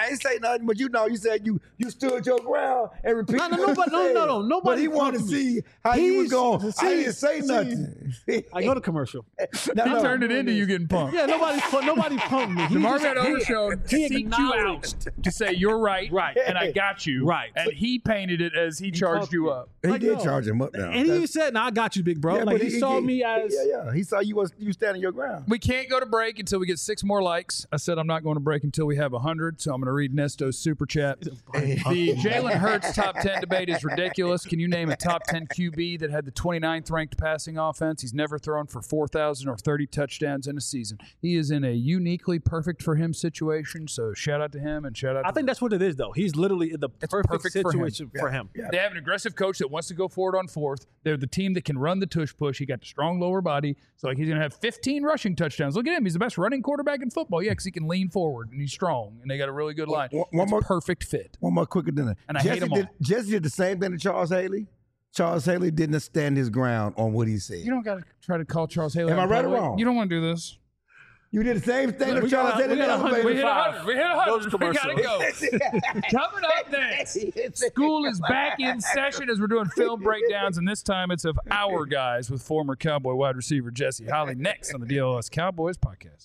I ain't say nothing, but you know, you said you you stood your ground and repeated. No, no, what nobody- you no, said. no, no, nobody But he wanted to punked me. see how you was He's- going. see, I didn't say see. nothing. I go to commercial. No, He no. turned it into you getting punked. Yeah, nobody, pu- nobody punked me. He Marvin just- he- Overshown he seeked you out acknowledged. to say you're right, Right. and I got you, Right. and he painted it as he charged punked you me. up. He Like, did no. charge him up now. And he said, "No, I got you, big bro." Yeah, like but he, saw me as yeah, yeah. He saw you was you standing your ground. We can't go to break until we get six more likes. I said I'm not going to break until we have one hundred, so I'm going to read Nesto's super chat. The Jalen Hurts top ten debate is ridiculous. Can you name a top ten Q B that had the twenty-ninth ranked passing offense? He's never thrown for four thousand or thirty touchdowns in a season. He is in a uniquely perfect for him situation, so shout out to him and shout out I to think that's what it is, though. He's literally in the perfect, perfect for him. situation for him. They have an aggressive coach that wants to go forward on fourth. They're the team that can run the tush push. He got the strong lower body. So like he's going to have fifteen rushing touchdowns. Look at him. He's the best running quarterback in football. Yeah, because he can lean forward and he's strong. And they got a really good line. One- one It's more- perfect fit. One more quicker than that. And I hate Jesse them did, all. Jesse did the same thing to Charles Haley. Charles Haley didn't stand his ground on what he said. You don't got to try to call Charles Haley. Am out I in right or public. wong? You don't want to do this. You did the same thing to We Charles got a- Haley. we got a in the hundred. We hit elevator. one hundred. We hit one hundred. We got to go. Coming up next, school is back in session as we're doing film breakdowns, and this time it's of our guys with former Cowboy wide receiver Jesse Holly. Next on the D L S Cowboys podcast.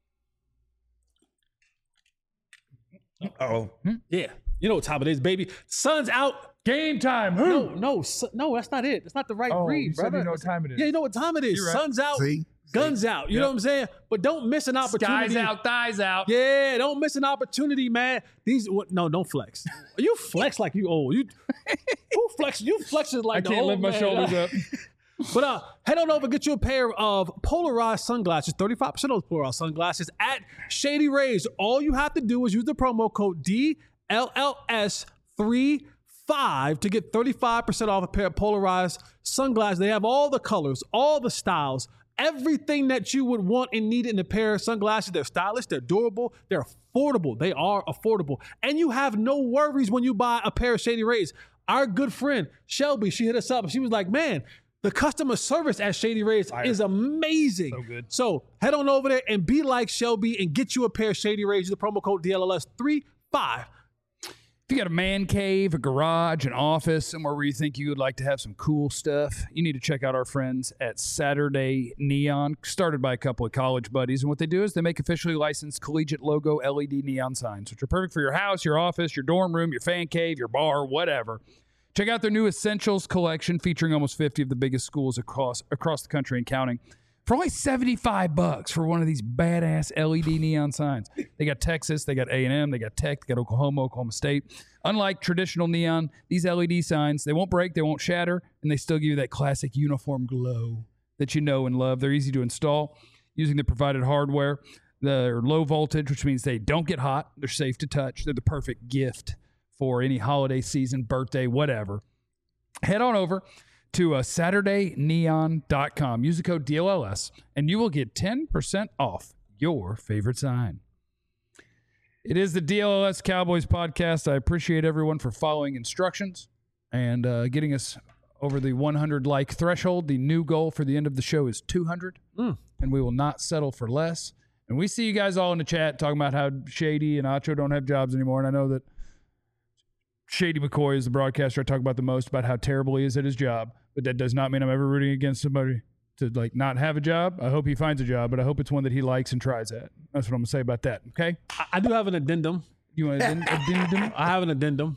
Oh, Yeah, you know what time it is, baby. Sun's out. Game time. No, no, su- no. That's not it. That's not the right Oh, read, you said brother. you know what time it is. Yeah, you know what time it is. You're right. Sun's out. see, Guns out. You know what I'm saying? But don't miss an opportunity. Skies out, thighs out. Yeah, don't miss an opportunity, man. These what, no, don't flex. You flex like you old. You who flex? You flexes like I the can't old lift my man. shoulders up. But uh, head on over, get you a pair of polarized sunglasses, thirty-five percent of those polarized sunglasses at Shady Rays. All you have to do is use the promo code D L L S thirty-five to get thirty-five percent off a pair of polarized sunglasses. They have all the colors, all the styles, everything that you would want and need in a pair of sunglasses. They're stylish, they're durable, they're affordable. They are affordable. And you have no worries when you buy a pair of Shady Rays. Our good friend, Shelby, she hit us up. She was like, man, the customer service at Shady Rays is amazing. So good. So head on over there and be like Shelby and get you a pair of Shady Rays. Use the promo code D L L S thirty-five. If you got a man cave, a garage, an office, somewhere where you think you would like to have some cool stuff, you need to check out our friends at Saturday Neon, started by a couple of college buddies. And what they do is they make officially licensed collegiate logo L E D neon signs, which are perfect for your house, your office, your dorm room, your fan cave, your bar, whatever. Check out their new Essentials collection featuring almost fifty of the biggest schools across across the country and counting for only seventy-five bucks for one of these badass L E D neon signs. They got Texas, they got A and M, they got Tech, they got Oklahoma, Oklahoma State. Unlike traditional neon, these L E D signs, they won't break, they won't shatter, and they still give you that classic uniform glow that you know and love. They're easy to install using the provided hardware. They're low voltage, which means they don't get hot. They're safe to touch. They're the perfect gift for any holiday season, birthday, whatever. Head on over to uh, Saturday Neon dot com. Use the code D L L S, and you will get ten percent off your favorite sign. It is the D L L S Cowboys podcast. I appreciate everyone for following instructions and uh, getting us over the one hundred like threshold. The new goal for the end of the show is two hundred, Mm. and we will not settle for less. And we see you guys all in the chat talking about how Shady and Acho don't have jobs anymore, and I know that Shady McCoy is the broadcaster I talk about the most about how terrible he is at his job, but that does not mean I'm ever rooting against somebody to like not have a job. I hope he finds a job, but I hope it's one that he likes and tries at. That's what I'm gonna say about that. Okay? I, I do have an addendum. You want an addendum? I have an addendum.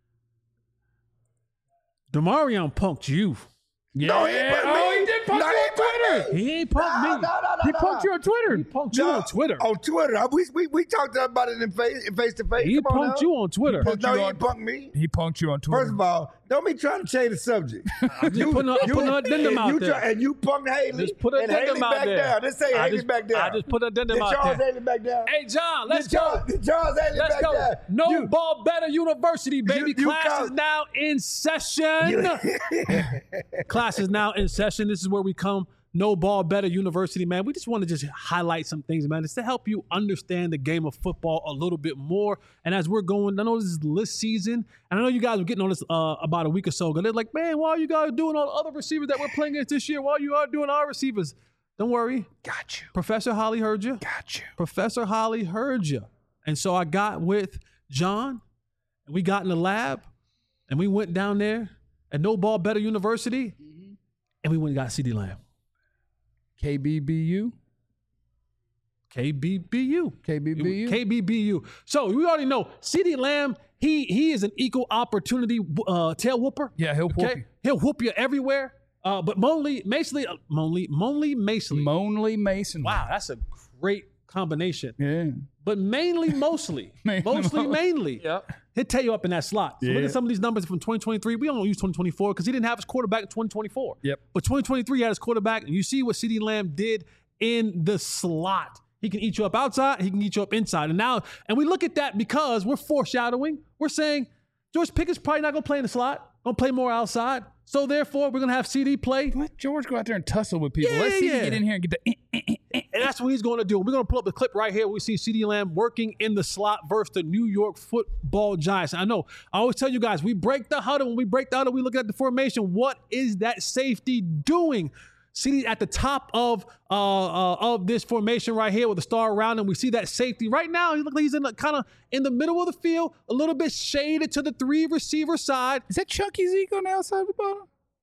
Demarion punked you. Yeah. No, he put oh, me. he did punk No, you he on put Twitter. me. He ain't punked No, me. no, no, no, He no, punked no. you on Twitter. He punked you No, on Twitter. On Twitter, I- we we we talked about it in face face to face. He Come on punked now. you on Twitter. punked No, you he on- ain't punked me. He punked you on Twitter. First of all, don't be trying to change the subject. I'm just putting a, I'm putting an addendum and out you there. Try, and you punked Haley. Just put an and addendum Haley out back there. down. Let's say I Haley just- back down. I just put an addendum Did out Charles there. Haley back down? Hey, John, let's Did Charles, go. Did Charles Haley Let's back go. down? No You- Ball Better University, baby. You- you Class come- is now in session. Class is now in session. This is where we come. No Ball Better University, man. We just want to just highlight some things, man. It's to help you understand the game of football a little bit more. And as we're going, I know this is list season, and I know you guys were getting on this uh, about a week or so ago. They're like, man, why are you guys doing all the other receivers that we're playing against this year? Why you are doing our receivers? Don't worry. Got you. Professor Holly heard you. Got you. Professor Holly heard you. And so I got with John, and we got in the lab, and we went down there at No Ball Better University, mm-hmm. and we went and got CeeDee Lamb. K B B U? K B B U. K B B U? K B B U. So we already know CeeDee Lamb, he he is an equal opportunity uh, tail whooper. Yeah, he'll whoop okay? you. He'll whoop you everywhere. Uh, but Monley, Masley, uh, Monley, Monley, Masley. Monley Mason. Wow, that's a great combination. Yeah. But mainly, mostly, Mainly, mostly, mo- mainly, Yep. he'll tell you up in that slot. So Yeah. look at some of these numbers from twenty twenty-three. We don't use twenty twenty-four because he didn't have his quarterback in twenty twenty-four. Yep. But twenty twenty-three he had his quarterback, and you see what CeeDee Lamb did in the slot. He can eat you up outside. He can eat you up inside. And now, and we look at that because we're foreshadowing. We're saying George Pickett's probably not going to play in the slot. Going to play more outside. So therefore, we're going to have C D play. Let George go out there and tussle with people. Yeah, Let's see yeah. him get in here and get the. eh, eh, eh. And that's what he's going to do. We're going to pull up the clip right here. We see CeeDee Lamb working in the slot versus the New York Football Giants. I know. I always tell you guys, we break the huddle. When we break the huddle, we look at the formation. What is that safety doing? CeeDee at the top of uh, uh, of this formation right here with the star around him. We see that safety right now. He looks like he's in the, kind of in the middle of the field, a little bit shaded to the three receiver side. Is that Chucky Zeke on the outside of the bottom?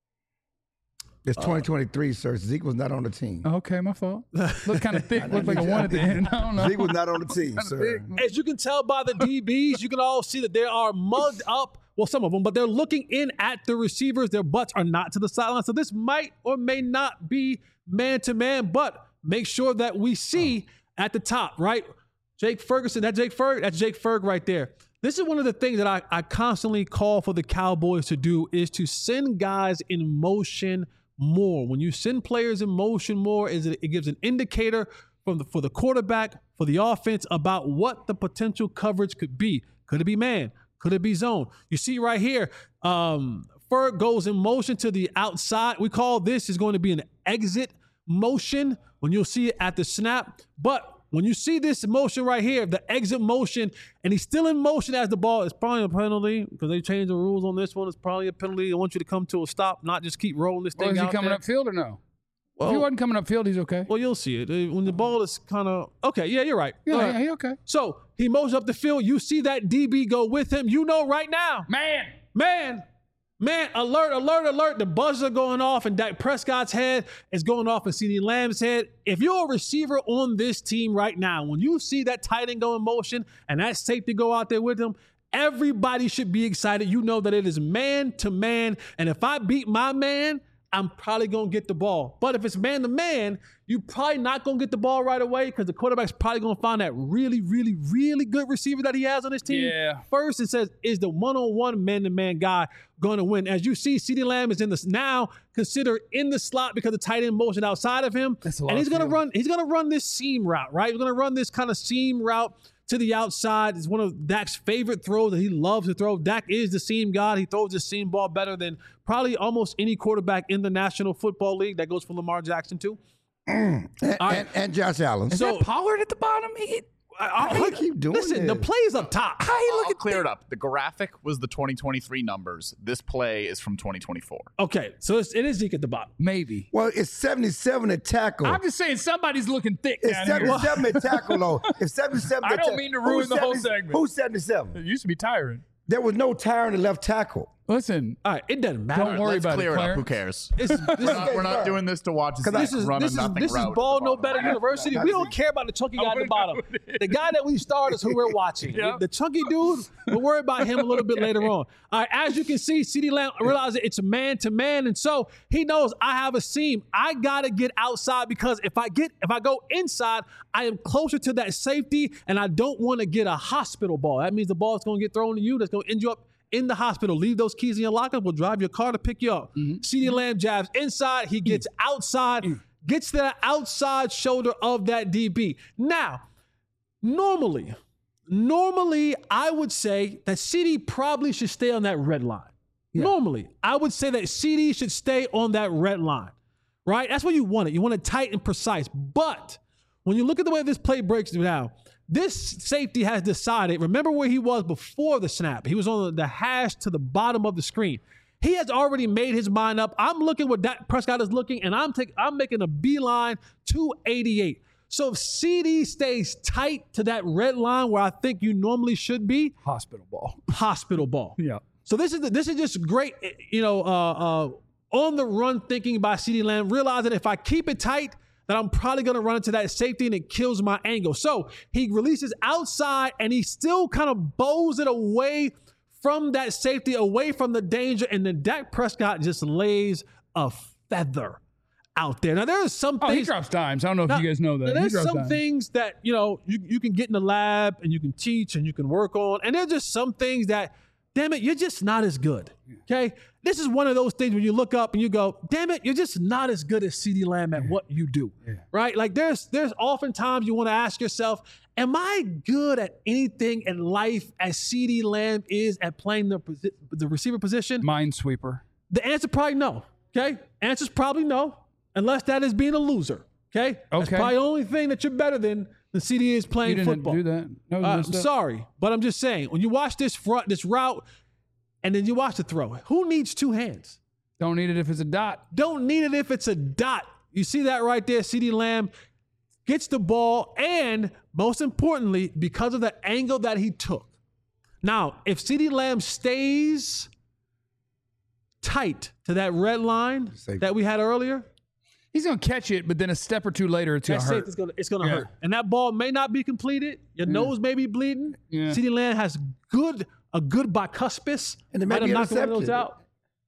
It's twenty twenty-three, sir. Zeke was not on the team. Okay, my fault. Look kind of thick. Looked like a one at the end. I don't know. Zeke was not on the team, sir. As you can tell by the D Bs, you can all see that they are mugged up. Well, some of them, but they're looking in at the receivers. Their butts are not to the sideline. So this might or may not be man-to-man, but make sure that we see oh. at the top, right? Jake Ferguson, that Jake Ferg, that's Jake Ferg right there. This is one of the things that I, I constantly call for the Cowboys to do is to send guys in motion more. When you send players in motion more, is it, it gives an indicator from the, for the quarterback, for the offense about what the potential coverage could be. Could it be man? Could it be zone? You see right here, um, Ferg goes in motion to the outside. We call this is going to be an exit motion when you'll see it at the snap. But when you see this motion right here, the exit motion, and he's still in motion as the ball, it's probably a penalty because they changed the rules on this one. It's probably a penalty. I want you to come to a stop, not just keep rolling this thing Well, is he out coming there. upfield or no? Well, if he wasn't coming upfield, he's okay. Well, you'll see it. Uh, When the ball is kind of, okay, yeah, you're right. Yeah, All yeah, right. he okay. So he moves up the field. You see that D B go with him. You know right now. Man. Man, man, alert, alert, alert. The buzzers are going off and Dak Prescott's head is going off and CeeDee Lamb's head. If you're a receiver on this team right now, when you see that tight end go in motion and that safety go out there with him, everybody should be excited. You know that it is man to man. And if I beat my man, I'm probably going to get the ball. But if it's man to man, you're probably not going to get the ball right away because the quarterback's probably going to find that really, really, really good receiver that he has on his team. Yeah. First, it says, is the one-on-one man-to-man guy going to win? As you see, CeeDee Lamb is in this now considered in the slot because of tight end motion outside of him. That's a lot and he's of going to field. run. He's going to run this seam route, right? He's going to run this kind of seam route to the outside. It's one of Dak's favorite throws that he loves to throw. Dak is the seam god. He throws the seam ball better than probably almost any quarterback in the National Football League. That goes for Lamar Jackson too. And, All right. and, and Josh Allen. Is So- that Pollard at the bottom? He, I, Why you keep doing listen, the this? play's up top. how you look I'll at clear it up. The graphic was the twenty twenty-three numbers. This play is from twenty twenty-four. Okay, so it's, it is Zeke at the bottom. Maybe. Well, it's seventy-seven at tackle. I'm just saying somebody's looking thick It's down here. seventy-seven at tackle, though. If seventy-seven I at don't tack- mean to ruin who's the whole seventy segment. Who's seventy-seven? It used to be tiring. There was no tire in the left tackle. Listen, All right, it doesn't matter. Don't worry Let's about it, clear it, up. Clarence. Who cares? This, this, We're not, we're not doing this to watch Zeke this is run this a is nothing this is route at Ball the No bottom. Better University. We don't care about the chunky guy at the bottom. The guy that we starred is who we're watching. Yep. The chunky dude, we'll worry about him a little bit later on. All right, as you can see, CeeDee Lamb realizes it's man to man, and so he knows I have a seam. I gotta get outside because if I get if I go inside, I am closer to that safety, and I don't want to get a hospital ball. That means the ball is gonna get thrown to you. That's gonna end you up in the hospital. Leave those keys in your locker. We'll drive your car to pick you up. Mm-hmm. CeeDee Lamb jabs inside. He gets outside, gets to the outside shoulder of that D B. Now, normally, normally I would say that CeeDee probably should stay on that red line. Normally, I would say that CeeDee should stay on that red line, right? That's what you want it. You want it tight and precise. But when you look at the way this play breaks down, this safety has decided, remember where he was before the snap. He was on the hash to the bottom of the screen. He has already made his mind up. I'm looking what Dak Prescott is looking, and I'm taking, I'm making a beeline to eighty-eight. So if C D stays tight to that red line where I think you normally should be, Hospital ball. hospital ball. Yeah. So this is the, this is just great, you know, uh, uh, on the run thinking by CeeDee Lamb, realizing if I keep it tight, that I'm probably going to run into that safety and it kills my angle. So he releases outside and he still kind of bows it away from that safety, away from the danger, and then Dak Prescott just lays a feather out there. Now, there are some Oh, things. he drops dimes. I don't know if Now, you guys know that. now, He there's drops some dimes. things that, you know, you, you can get in the lab and you can teach and you can work on. And there's just some things that, damn it, you're just not as good. Okay? This is one of those things when you look up and you go, damn it, you're just not as good as CeeDee Lamb at what you do. Yeah. Right? Like there's there's oftentimes you want to ask yourself, am I good at anything in life as CeeDee Lamb is at playing the, posi- the receiver position? Minesweeper. The answer probably no. Okay? Answer's probably no, unless that is being a loser. Okay? That's Okay. probably the only thing that you're better than the C D is You playing didn't football. do that. No, Uh, no I'm stuff. sorry, but I'm just saying, when you watch this front, this route, and then you watch the throw, who needs two hands? Don't need it if it's a dot. Don't need it if it's a dot. You see that right there? CeeDee Lamb gets the ball, and most importantly, because of the angle that he took. Now, if CeeDee Lamb stays tight to that red line Safe. that we had earlier, He's going to catch it, but then a step or two later, it's going that to hurt. safety's gonna, it's going to Yeah. hurt. And that ball may not be completed. Your nose may be bleeding. Yeah. CeeDee Lamb has good a good bicuspis. And it may Might have be knocked one of those intercepted. out.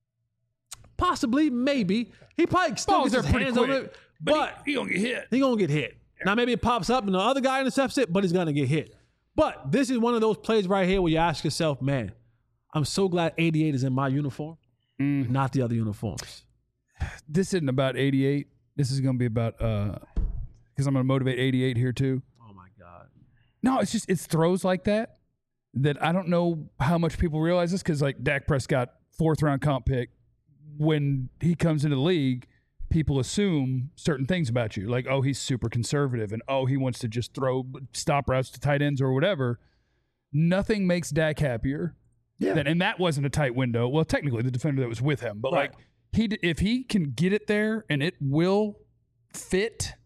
Possibly, maybe. He probably still Balls gets are his pretty hands on quick, it, but he, he going to get hit. he gonna get hit. Now maybe it pops up and the other guy intercepts it, but he's gonna get hit. But this is one of those plays right here where you ask yourself, man, I'm so glad eighty-eight is in my uniform, Mm. not the other uniforms. This isn't about eighty-eight. This is going to be about, uh, because I'm going to motivate eighty-eight here too. Oh my God. No, it's just, it's throws like that that I don't know how much people realize this because, like, Dak Prescott, fourth round comp pick, when he comes into the league, people assume certain things about you. Like, oh, he's super conservative and, oh, he wants to just throw stop routes to tight ends or whatever. Nothing makes Dak happier. Yeah. Than, and that wasn't a tight window. Well, technically, the defender that was with him. But, Right. like, he d- if he can get it there and it will fit,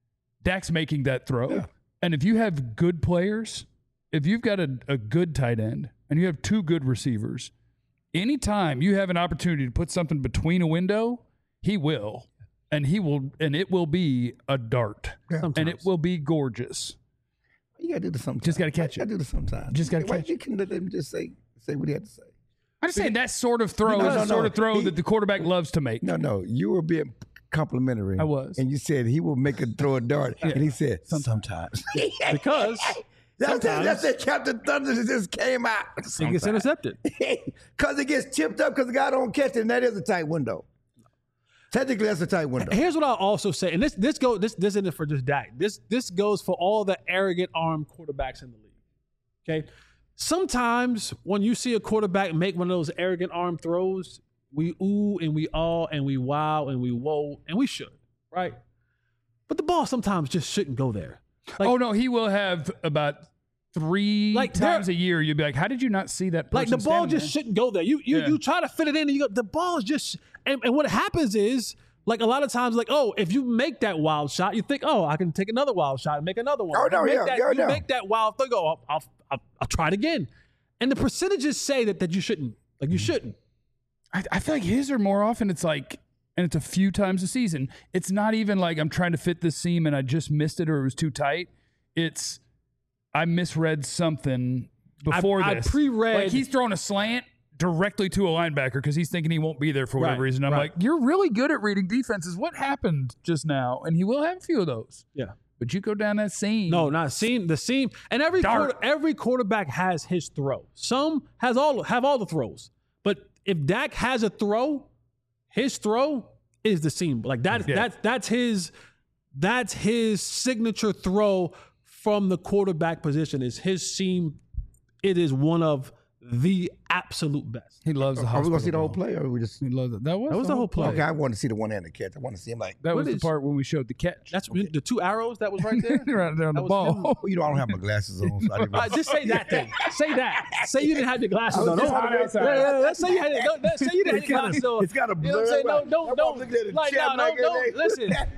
Dak's making that throw. Yeah. And if you have good players, if you've got a, a good tight end and you have two good receivers, anytime you have an opportunity to put something between a window, he will. And he will, and it will be a dart. Yeah. And it Sometimes. will be gorgeous. You gotta do this sometimes. Just gotta catch You it. gotta do this sometimes. Just gotta Why catch you can let him just say say what he had to say. I'm just saying that sort of throw No, is no, the sort no. of throw He- that the quarterback loves to make. No, no, you were being complimentary. I was. and you said he will make a throw a dart, and he said sometimes. Because That's it. sometimes- That's it. Captain Thunder just came out. it gets intercepted. Because it gets tipped up because the guy don't catch it, and that is a tight window. Technically, that's a tight window. Here's what I'll also say, and this this go this this isn't for just Dak. This this goes for all the arrogant arm quarterbacks in the league. Okay, sometimes when you see a quarterback make one of those arrogant arm throws, we ooh and we awe and we wow and we whoa, and we should, right? But the ball sometimes just shouldn't go there. Like, oh no, he will have about three Like, there- times a year. You'll be like, "How did you not see that?" Like the person ball standing just there?" shouldn't go there. You you Yeah. you try to fit it in, and you go, the ball is just. And, and what happens is, like a lot of times, like oh, if you make that wild shot, you think, oh, I can take another wild shot and make another one. Oh, You no, make yeah, that, yeah, you yeah. make that wild thing. Go, I'll, I'll I'll I'll try it again. And the percentages say that that you shouldn't. Like you shouldn't. I, I feel like his are more often. It's like, and it's a few times a season. It's not even like I'm trying to fit this seam and I just missed it or it was too tight. It's I misread something before I this. pre-read- Like he's throwing a slant directly to a linebacker because he's thinking he won't be there for whatever Right, reason. I'm right. like, you're really good at reading defenses. What happened just now? And he will have a few of those. Yeah. But you go down that seam. No, not seam. The seam, and every Dart. quarter, every quarterback has his throw. Some has all have all the throws, but if Dak has a throw, his throw is the seam. Like that's Yeah. that's that's his that's his signature throw from the quarterback position. Is his seam? It is one of the absolute best. He loves the Are we gonna hospital see the whole ball. play, or are we just? He loves it. That was, That was the whole play. Okay, I want to see the one hand the catch. I want to see him like. That What was the is- part when we showed the catch. That's the two arrows that was right there. right there on the That was ball. him. Well, you know, I don't have my glasses on, so I didn't. All right, just say that thing. Say that. Say you didn't have your glasses I on. was just Don't- hot outside. Yeah, yeah, yeah. Say you had. Don't, don't- say you didn't have It's your kinda- glasses on. it's kinda You know what I'm saying? blurred, No, but don't, I'm don't. looking at the Like, chat no, like no, that. don't. Listen,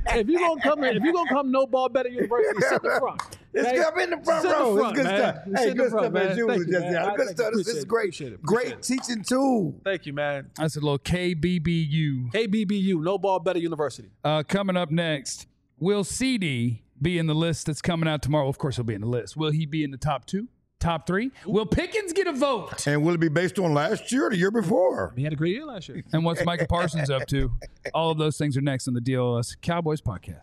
if you're gonna come in, if you're gonna come no ball better University, sit in the front. It's okay? good. I'm in the front Sit in the row. front, It's good man. stuff. Sit Hey, in the good front, stuff man. as usual. Thank you, Jesse. man. Good Thank you. stuff. This Appreciate is it. great. Appreciate it. Great Appreciate it. teaching tool. Thank you, man. That's a little K B B U. K B B U, no ball better University. Uh, coming up next, will C D be in the list that's coming out tomorrow? Of course, he'll be in the list. Will he be in the top two, top three? Will Pickens get a vote? And will it be based on last year or the year before? He had a great year last year. And what's Micah Parsons up to? All of those things are next on the D L S Cowboys podcast.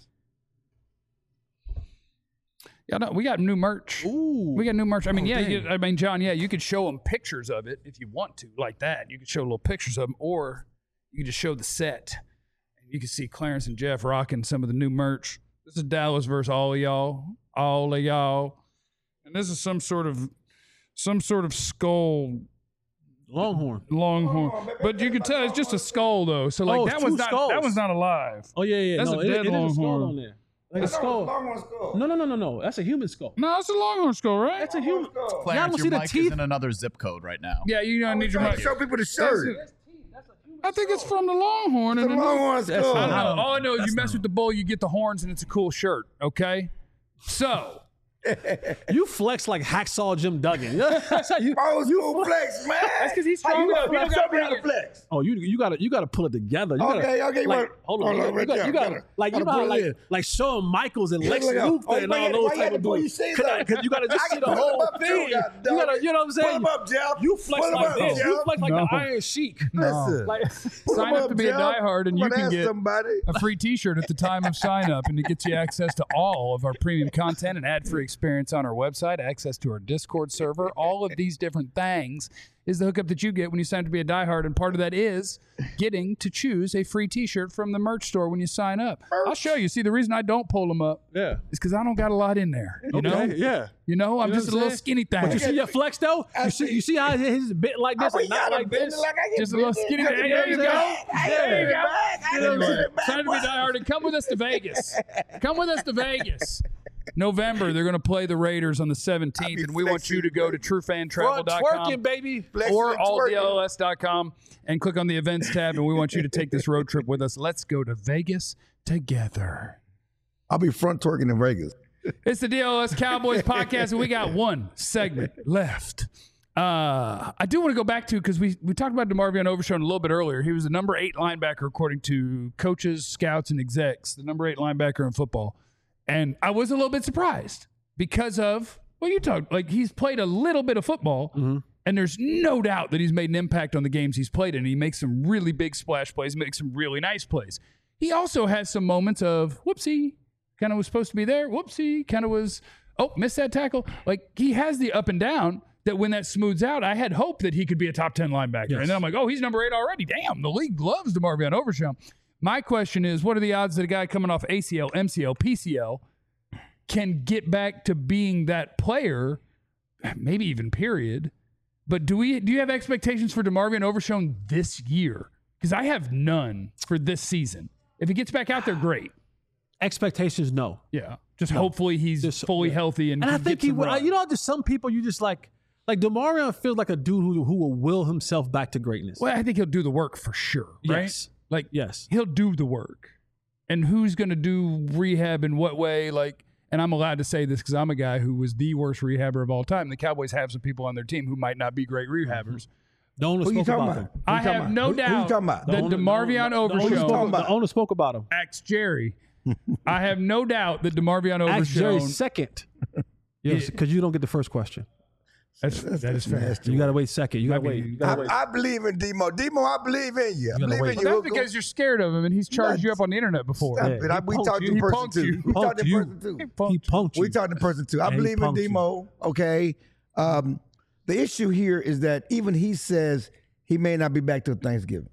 Yeah, no, we got new merch. Ooh. We got new merch. I mean, Oh, yeah, dang. you, I mean, John, yeah, you could show them pictures of it if you want to, like that. You could show little pictures of them, or you could just show the set. And you can see Clarence and Jeff rocking some of the new merch. This is Dallas versus all of y'all, all of y'all, and this is some sort of, some sort of skull. Longhorn. Longhorn, but you can tell it's just a skull though. So like Oh, that it's one's two not skulls. that one's not alive. Oh yeah, yeah. That's no, a it- dead it is a skull longhorn. on there. Like a skull. No, no, no, no, no. That's a human skull. No, it's a Longhorn skull, right? That's a human. Clarence, Y'all don't see your the mic teeth? is in another zip code right now. Yeah, you don't need your Trying mic. to show people the That's shirt. it. I think it's from the Longhorn. The and then- Longhorn That's skull. I don't know. Um, All I know is that's you mess not- with the bull, you get the horns, and it's a cool shirt. Okay, so You flex like Hacksaw Jim Duggan. That's how you. Old school flex, man. That's 'cause he's How strong you enough. gonna He don't flex? gotta Show me how bring to it. flex. Oh, you you gotta you gotta pull it together. You gotta, Okay, okay, like, wait. hold on, Hold you, on, gotta- right you gotta, there. you gotta Gotta- like you gotta know pull like it in. like Shawn Michaels and Yeah, Lex look out. Luthor Oh, and why all you- those why you type had of to pull dudes. your shades Cause, up? cause you gotta just I see can the pull whole them up too, thing. You goddamn gotta, it. you know what I'm saying? Pull 'em up, Jeff. You flex Pull 'em like up, this. Jeff. You flex like No. the Iron Sheik. Listen. Like, Pull Sign 'em up to be a Jeff. diehard, and I'm you gonna can ask get somebody. a free T-shirt at the time of sign up, and it gets you access to all of our premium content and ad-free experience on our website, access to our Discord server. All of these different things is the hookup that you get when you sign up to be a diehard, and part of that is getting to choose a free T-shirt from the merch store when you sign up. I'll show you. See, the reason I don't pull them up yeah. is because I don't got a lot in there. You know, Okay, yeah. you know, I'm You know just a what I'm little saying? skinny thing. But you see your flex though? You see, you see how his bit like this I and mean, not y'all like bend this? it like I can Just a little bend it. skinny. I There can you bend it go. back. I can There you bend it go. back. I You can know, bend it back. Sign up to be diehard and come with us to Vegas. Come with us to Vegas. November, they're going to play the Raiders on the seventeenth, and we want you to go to true fan travel Front dot twerking, com baby. Flexing or and all twerking. D L S dot com and click on the events tab, and we want you to take this road trip with us. Let's go to Vegas together. I'll be front twerking in Vegas. It's the D L S Cowboys podcast, and we got one segment left. Uh, I do want to go back to, because we, we talked about DeMarvion Overshown a little bit earlier. He was the number eight linebacker, according to coaches, scouts, and execs, the number eight linebacker in football. And I was a little bit surprised because of, well, you talked, like he's played a little bit of football, and there's no doubt that he's made an impact on the games he's played in. He makes some really big splash plays, makes some really nice plays. He also has some moments of, whoopsie, kind of was supposed to be there. Whoopsie, kind of was, oh, missed that tackle. Like, he has the up and down that when that smooths out, I had hope that he could be a top ten linebacker. Yes. And then I'm like, oh, he's number eight already. Damn, the league loves DeMarvion Overshown. My question is, what are the odds that a guy coming off A C L, M C L, P C L can get back to being that player, maybe even period? But do we do you have expectations for DeMarvion Overshown this year? Because I have none for this season. If he gets back out there, great. Expectations, no. Yeah. Just hopefully he's Just- fully yeah. healthy and, And I can think get he some will. run. You know, just some people you just like, like DeMarvion feels like a dude who, who will will himself back to greatness. Well, I think he'll do the work for sure, right? Yes. Like, Yes. he'll do the work. And who's going to do rehab in what way? Like, and I'm allowed to say this because I'm a guy who was the worst rehabber of all time. The Cowboys have some people on their team who might not be great rehabbers. The owner Who you spoke talking about about? him. Who you I talking have about? no Who- who you doubt talking about? that The owner- DeMarvion the owner Overshown, spoke- talking about? The owner spoke about him. Axe Jerry. I have no doubt that DeMarvion Ask Jerry Overshown. second. Yes, because you don't get the first question. That's, that is fair. nasty. You gotta wait second. You gotta Might wait. be- You gotta wait. I, I believe in Demo. Demo, I believe in you. I gotta believe wait. in Well, you. that's We'll go- because you're scared of him and he's charged you up on the internet before. Stop Yeah, it. I, he we punked talked you. to He person punked too. you. We talked Punked to you. person too. He punked you. We talked to person too. I And he believe in punked you. Demo. Okay. Um, the issue here is that even he says he may not be back till Thanksgiving.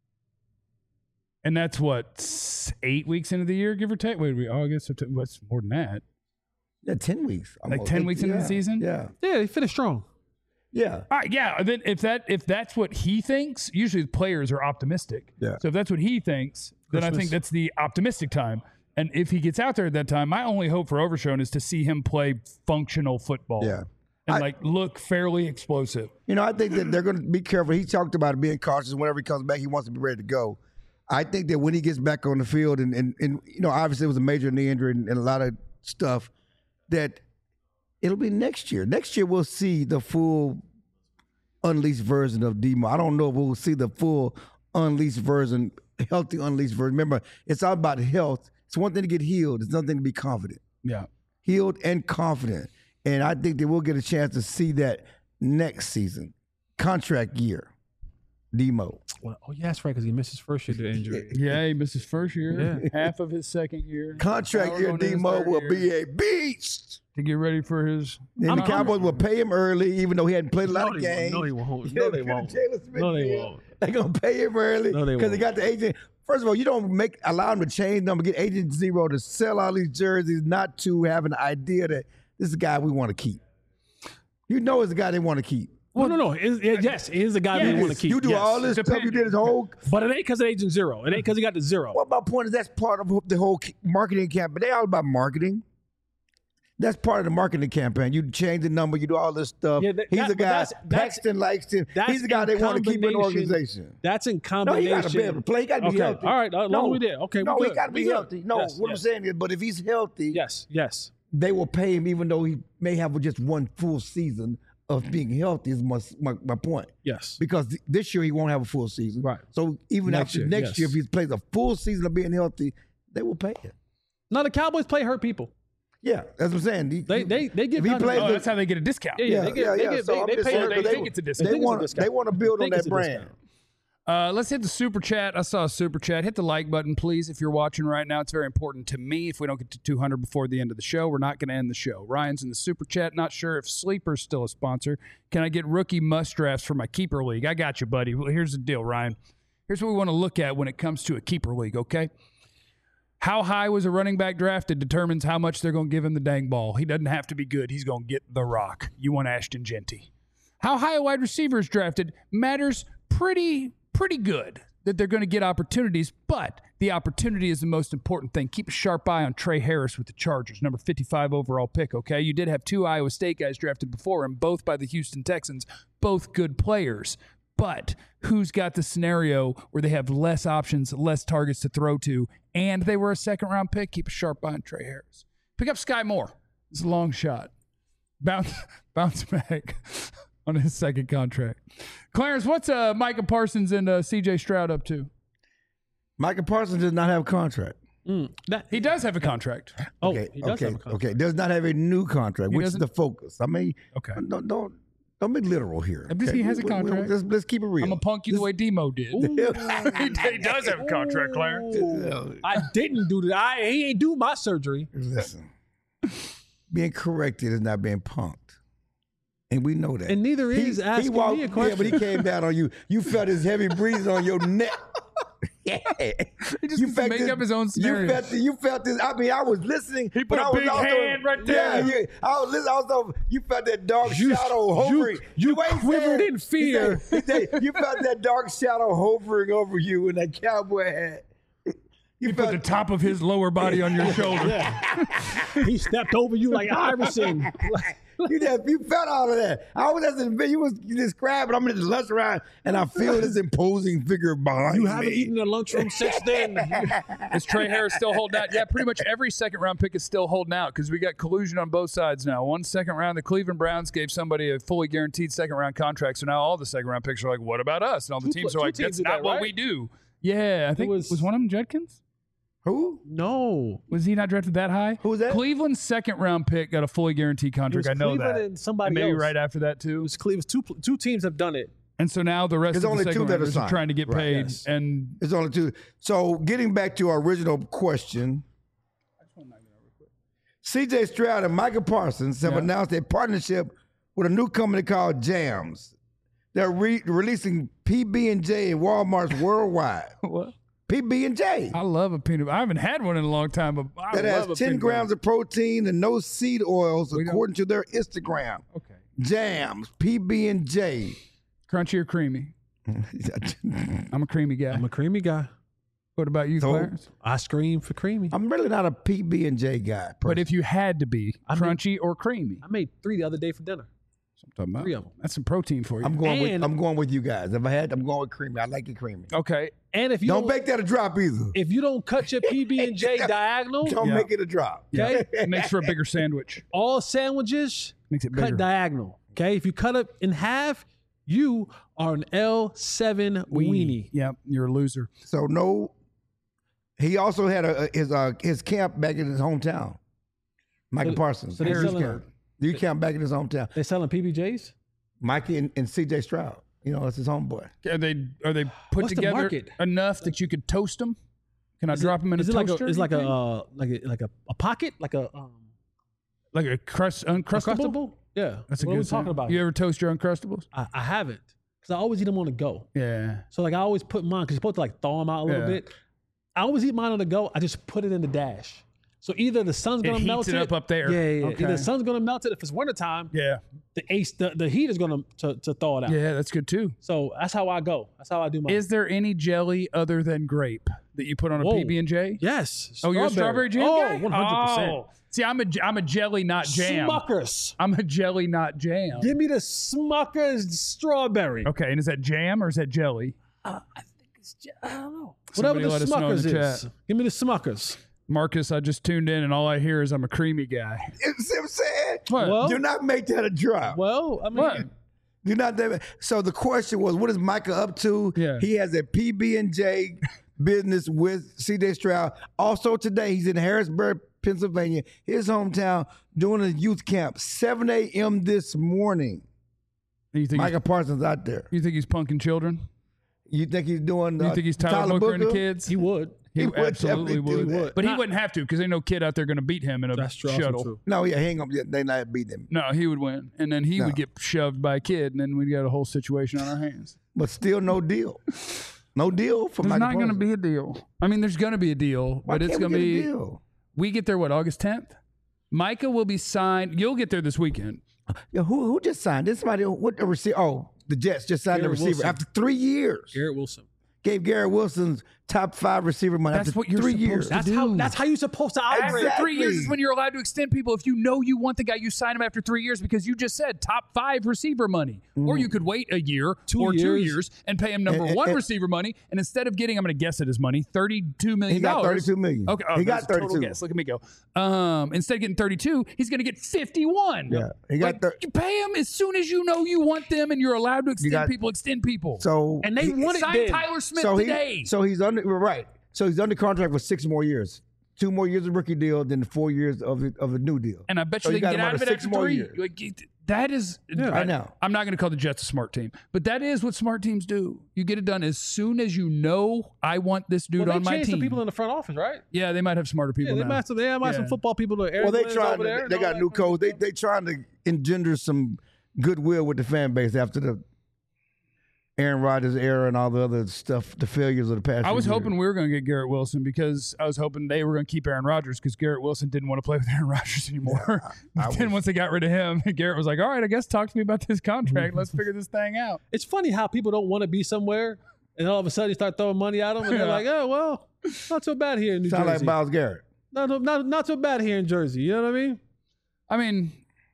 And that's what, s- eight weeks into the year, give or take? Wait, we August, September, what's more than that? Yeah, ten weeks. Like almost. ten weeks into the Yeah, season? Yeah. Yeah, he finished strong. Yeah. All right, yeah. Then if that if that's what he thinks, usually the players are optimistic. Yeah. So if that's what he thinks, then I Christmas. think that's the optimistic time. And if he gets out there at that time, my only hope for Overshown is to see him play functional football. Yeah. And I- like look fairly explosive. You know, I think that they're going to be careful. He talked about it being cautious. Whenever he comes back, he wants to be ready to go. I think that when he gets back on the field, and, and, and you know, obviously it was a major knee injury and, and a lot of stuff, that it'll be next year. Next year we'll see the full unleashed version of Demo. I don't know if we'll see the full unleashed version, healthy unleashed version. Remember, it's all about health. It's one thing to get healed. It's another thing to be confident. Yeah. Healed and confident. And I think that we'll get a chance to see that next season. Contract year. Demo. Well, oh, yeah, that's right, because he missed his first year due to injury. Yeah, he missed his first year, Yeah. half of his second year. Contract Now year we're going to his Demo third will year be a beast. to get ready for his. And the Cowboys will pay him early, even though he hadn't played a lot No, of they games. won't. No, they won't. No, they won't. Jalen Smith No, they deal. won't. They're gonna pay him early No, they because they won't. got the agent. First of all, you don't make allow him to change number, get agent zero to sell all these jerseys, not to have an idea that this is a guy we want to keep. You know, it's a guy they want to keep. Well, no, no. It's, it, yes, it is the guy they want to keep. You do yes. all this stuff. You did his whole. But it ain't because of Agent Zero. It ain't because he got the zero. Well, my point is that's part of the whole marketing campaign. They all about marketing. That's part of the marketing campaign. You change the number, you do all this stuff. Yeah, that- He's that- a but guy. that's- that's- Paxton likes him. that's He's the guy in they want to keep in the combination- organization. That's in No, he combination. got to be able to play. He got to be Okay, healthy. all right, as long as we did. Okay, we no, he good. got to We be good. healthy. No, Yes, what yes. I'm saying is, but if he's healthy, Yes, yes. they will pay him even though he may have just one full season of being healthy. Is my my, my point. Yes. Because th- this year he won't have a full season. Right. So even Next after year, next yes. year, if he plays a full season of being healthy, they will pay him. No, the Cowboys play hurt people. Yeah, that's what I'm saying. He- They they they get If he done- plays Oh, the- that's how they get a discount. Yeah, yeah, they get, they get, So they, I'm they just pay saying, her. they, They, think it's a discount. they think it's a want to discount. they want to build on Think it's that a brand. discount. Uh, let's hit the super chat. I saw a super chat. Hit the like button, please, if you're watching right now. It's very important to me. If we don't get to two hundred before the end of the show, we're not going to end the show. Ryan's in the super chat. Not sure if Sleeper's still a sponsor. Can I get rookie must drafts for my keeper league? I got you, buddy. Well, here's the deal, Ryan. Here's what we want to look at when it comes to a keeper league, okay? How high was a running back drafted determines how much they're going to give him the dang ball. He doesn't have to be good. He's going to get the rock. You want Ashton Genty. How high a wide receiver is drafted matters pretty, pretty good that they're going to get opportunities, but the opportunity is the most important thing. Keep a sharp eye on Trey Harris with the Chargers, number fifty-five overall pick, okay? You did have two Iowa State guys drafted before him, both by the Houston Texans, both good players. But who's got the scenario where they have less options, less targets to throw to, and they were a second-round pick? Keep a sharp eye on Trey Harris. Pick up Sky Moore. It's a long shot. Bounce, bounce back on his second contract. Clarence, what's uh, Micah Parsons and uh, C J Stroud up to? Micah Parsons does not have a contract. Mm, that, He does have a contract. oh, Okay, he does okay, have a contract. okay. Does not have a new contract, He which is doesn't? the focus. I mean, Okay. don't don't don't be literal here. I'm just- okay? he has a We- we- we- contract. Let's, let's keep it real. I'm going to punk you the way Demo did. he does have a contract, Clarence. I didn't do that. I, he ain't do my surgery. Listen, being corrected is not being punked, and we know that. And neither he, is asking he walked, me a question. Yeah, but he came down on you. You felt his heavy breeze on your neck. Yeah, He just you needs to make this- up his own You scenario. felt, the, you felt this. I mean, I was listening. He put but a I was big also, hand right there. Yeah, you, I was listening. Also, you felt that dark You- shadow you- hovering. you The way he quivered said- in he fear. said- he said, you felt that dark shadow hovering over you in that cowboy hat. You He put the top of his lower body on your shoulder. He stepped over you like Iverson. You, just, you felt all of that. I was just in, you was describing. I'm in the lunch round, and I feel this imposing figure behind You me. haven't eaten in the lunchroom since then. Is Trey Harris still holding out? Yeah, pretty much every second round pick is still holding out because we got collusion on both sides now. One second round, the Cleveland Browns gave somebody a fully guaranteed second round contract. So now all the second round picks are like, what about us? And all the Two teams pl- are two like, teams that's did not that, what right? we do. Yeah, I think was, was- was one of them Judkins? Who? No. Was he not drafted that high? Who was that? Cleveland's second round pick got a fully guaranteed It contract. was I know Cleveland that. and somebody And maybe else. right after that too. It was Cleveland. Two two teams have done it. And so now the rest There's of the only second two that are rounders are signed. trying to get Right, paid. yes. And It's only two. So getting back to our original question, C J Stroud and Micah Parsons have Yeah. announced a partnership with a new company called Jams. They're re- releasing P B and J in Walmart's worldwide. what? P B and J. I love a peanut. I haven't had one in a long time, but I That love a has ten peanut grams of protein and no seed oils, We don't- according to their Instagram. butter. Okay. Jams, P B and J. Crunchy or creamy? I'm a creamy guy. I'm a creamy guy. What about you, So- Clarence? I scream for creamy. I'm really not a P B and J guy. But if you had to be I mean- crunchy or creamy, I made three the other day for dinner. I'm talking about. Three of them. That's some protein for you. I'm going with And- I'm going with you guys. If I had, I'm going with creamy. I like it creamy. okay. And if you Don't don't, make that a drop either. if you don't cut your P B and J diagonal, Don't Yeah. make it a drop. okay, It makes for a bigger sandwich. all sandwiches Makes it cut bigger. diagonal. Okay, if you cut it in half, you are an L seven weenie. Yep, you're a loser. So no. He also had a, a- his uh, his camp back in his hometown. Michael So- Parsons. so they're Harris selling- camp. You camp back in his hometown. They selling P B Js. Mikey and, and C J Stroud. You know, that's his homeboy. Are they are they put What's the together market? enough that you could toast them? Can I Is drop it- them in a is it like toaster? a, it's you like a think? uh, like a like a, a pocket, like a um, like a crust uncrustable. Uncrustable? Yeah, That's a what good are we talking sound. about? You here? ever toast your uncrustables? I, I haven't because I always eat them on the go. Yeah. So like I always put mine because you're supposed to like thaw them out a little Yeah. bit. I always eat mine on the go. I just put it in the dash. So either the sun's It gonna heats melt it it up up there. Yeah, yeah. yeah. Okay. Either the sun's gonna melt it. If it's wintertime, Yeah. the ace the, the heat is gonna to, to thaw it out. Yeah, that's good too. So that's how I go. That's how I do mine. Is there any jelly other than grape that you put on a Whoa. P B and J? yes. Oh, you're a strawberry jam Oh, guy? one hundred percent. Oh. See, I'm a I'm a jelly, not jam. Smuckers. I'm a jelly, not jam. Give me the Smuckers strawberry. Okay, and is that jam or is that jelly? Uh, I think it's j- I don't know. Somebody Whatever let the us know in Smuckers the is. chat. Give me the Smuckers. Marcus, I just tuned in and all I hear is I'm a creamy guy. You see what I'm saying? What? Well- Do not make that a drop. Well, I mean, What? Do not. So the question was, what is Micah up to? Yeah. He has a P B and J business with C J Stroud. Also today, he's in Harrisburg, Pennsylvania, his hometown, doing a youth camp. seven a.m. this morning. You think Micah Parsons out there. you think he's punking children? You think he's doing? You uh, think he's Tyler, Booker and the kids? he would. He, He would absolutely definitely would. do that. But he Not- wouldn't have to because ain't no kid out there going to beat him in a That's true. also shuttle. true. No, yeah, hang on. They not beat them, No, he would win, and then he No. would get shoved by a kid, and then we'd got a whole situation on our hands. but still no deal. No deal for There's Micah not going to Parsons. be a deal. I mean, there's going to be a deal, Why but it's can't going to we get a be. deal? We get there what August tenth. Micah will be signed. You'll get there this weekend. Yeah, who who just signed? This somebody what the receiver? Oh, the Jets just signed Garrett the receiver Wilson. after three years. Garrett Wilson. Gave Garrett Wilson's top five receiver money That's after what you're three supposed years. to That's do. how. That's how you're supposed to operate. After three years Exactly. is when you're allowed to extend people. If you know you want the guy, you sign him after three years because you just said top five receiver money. Or you could wait a year Two or two years. years and pay him number And- one and- receiver money. And instead of getting, I'm going to guess at his money, thirty-two million He got thirty-two million. Okay, oh, He that's got a total thirty-two. guess. Look at me go. Um, instead of getting thirty-two, he's going to get fifty-one. Yeah, he got Like, thir- you pay him as soon as you know you want them, and you're allowed to extend got- people. Extend people. So And they he- want it Sign then. Tyler Smith so he today. so he's under right. So he's under contract for six more years. Two more years of rookie deal, then four years of it- of a new deal. and I bet So you you they can got get him out under of it six after more three. years. Like, it- that is, I know. I'm not going to call the Jets a smart team, but that is what smart teams do. You get it done as soon as you know I want this dude Well, on they my changed team. the people in the front office, right? yeah, they might have smarter Yeah, people they now. might have some, they might have some Yeah. football people. To Well, they Aaron trying. over there To, and they all got that new kind of coach. They stuff. they trying to engender some goodwill with the fan base after the Aaron Rodgers era and all the other stuff, the failures of the past. I few was years. hoping we were going to get Garrett Wilson because I was hoping they were going to keep Aaron Rodgers because Garrett Wilson didn't want to play with Aaron Rodgers anymore. I but then was- once they got rid of him, Garrett was like, all right, I guess talk to me about this contract. Let's figure this thing out. It's funny how people don't want to be somewhere, and all of a sudden you start throwing money at them, and they're Yeah. like, "Oh well, not so bad here in New Sound like Jersey. Miles Garrett. not, so- not not so bad here in Jersey." You know what I mean? I mean,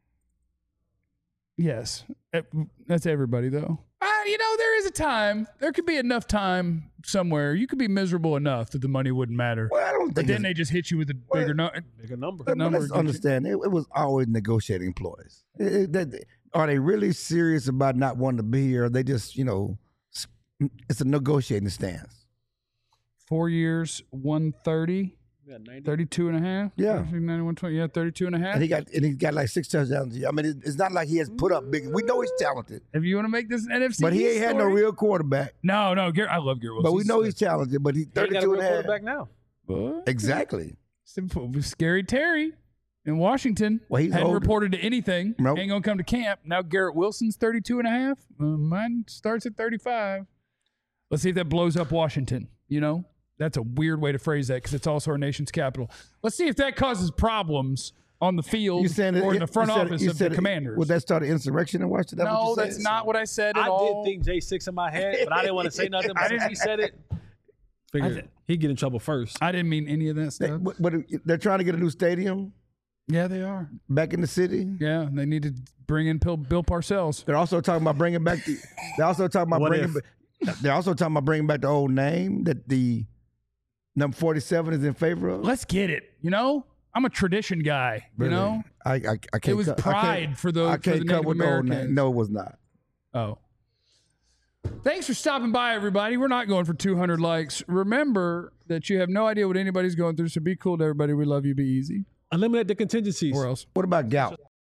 yes, It- that's everybody though. Uh, you know, there is a time. There could be enough time somewhere. You could be miserable enough that the money wouldn't matter. Well, I don't But think. then it's- they just hit you with a Well, bigger no- Bigger number. But number let's gets you- understand, it, it was always negotiating employees. It- it- that- are they really serious about not wanting to be here? Or they just, you know, s- it's a negotiating stance. Four years, one thirty, Yeah, ninety. thirty-two and a half. Yeah. ninety-one twenty. Yeah, thirty-two and a half. And he got and he got like six touchdowns. a year. I mean, it, it's not like he has put up big. We know he's talented, If you want to make this an N F C, but he ain't had no story- real quarterback. No, no, Garrett, I love Garrett Wilson. But we know he's talented. But he's He ain't got a thirty-two real and a half. quarterback now. What? Exactly. Simple. Scary Terry in Washington Well, he's hadn't older. reported to anything. Nope. Ain't gonna come to camp. Now Garrett Wilson's thirty-two and a half. Uh, mine starts at thirty-five. Let's see if that blows up Washington. You know, that's a weird way to phrase that because it's also our nation's capital. Let's see if that causes problems on the field You saying or it- in the you front said- office you of said the it- Commanders. Would that start an insurrection in Washington? no, what you that's said? not what I said at I all. did think J six in my head, but I didn't want to say nothing. But since he said it, figured did- he'd get in trouble first. I didn't mean any of that They- stuff. but, but they're trying to get a new stadium. Yeah, they are. back in the city. Yeah, they need to bring in Bill, Bill Parcells. They're also talking about bringing back the. They're also talking about What bringing. if? ba- They're also talking about bringing back the old name that the number forty-seven is in favor of. Let's get it. You know, I'm a tradition guy. You Really? know, I I, I can't. it was co- I can't- pride for the I for can't the come Native with the old Americans. name. No, it was not. Oh. Thanks for stopping by, everybody. We're not going for two hundred likes. Remember that you have no idea what anybody's going through, so be cool to everybody. We love you. Be easy. Eliminate the contingencies. Or else. What about gout?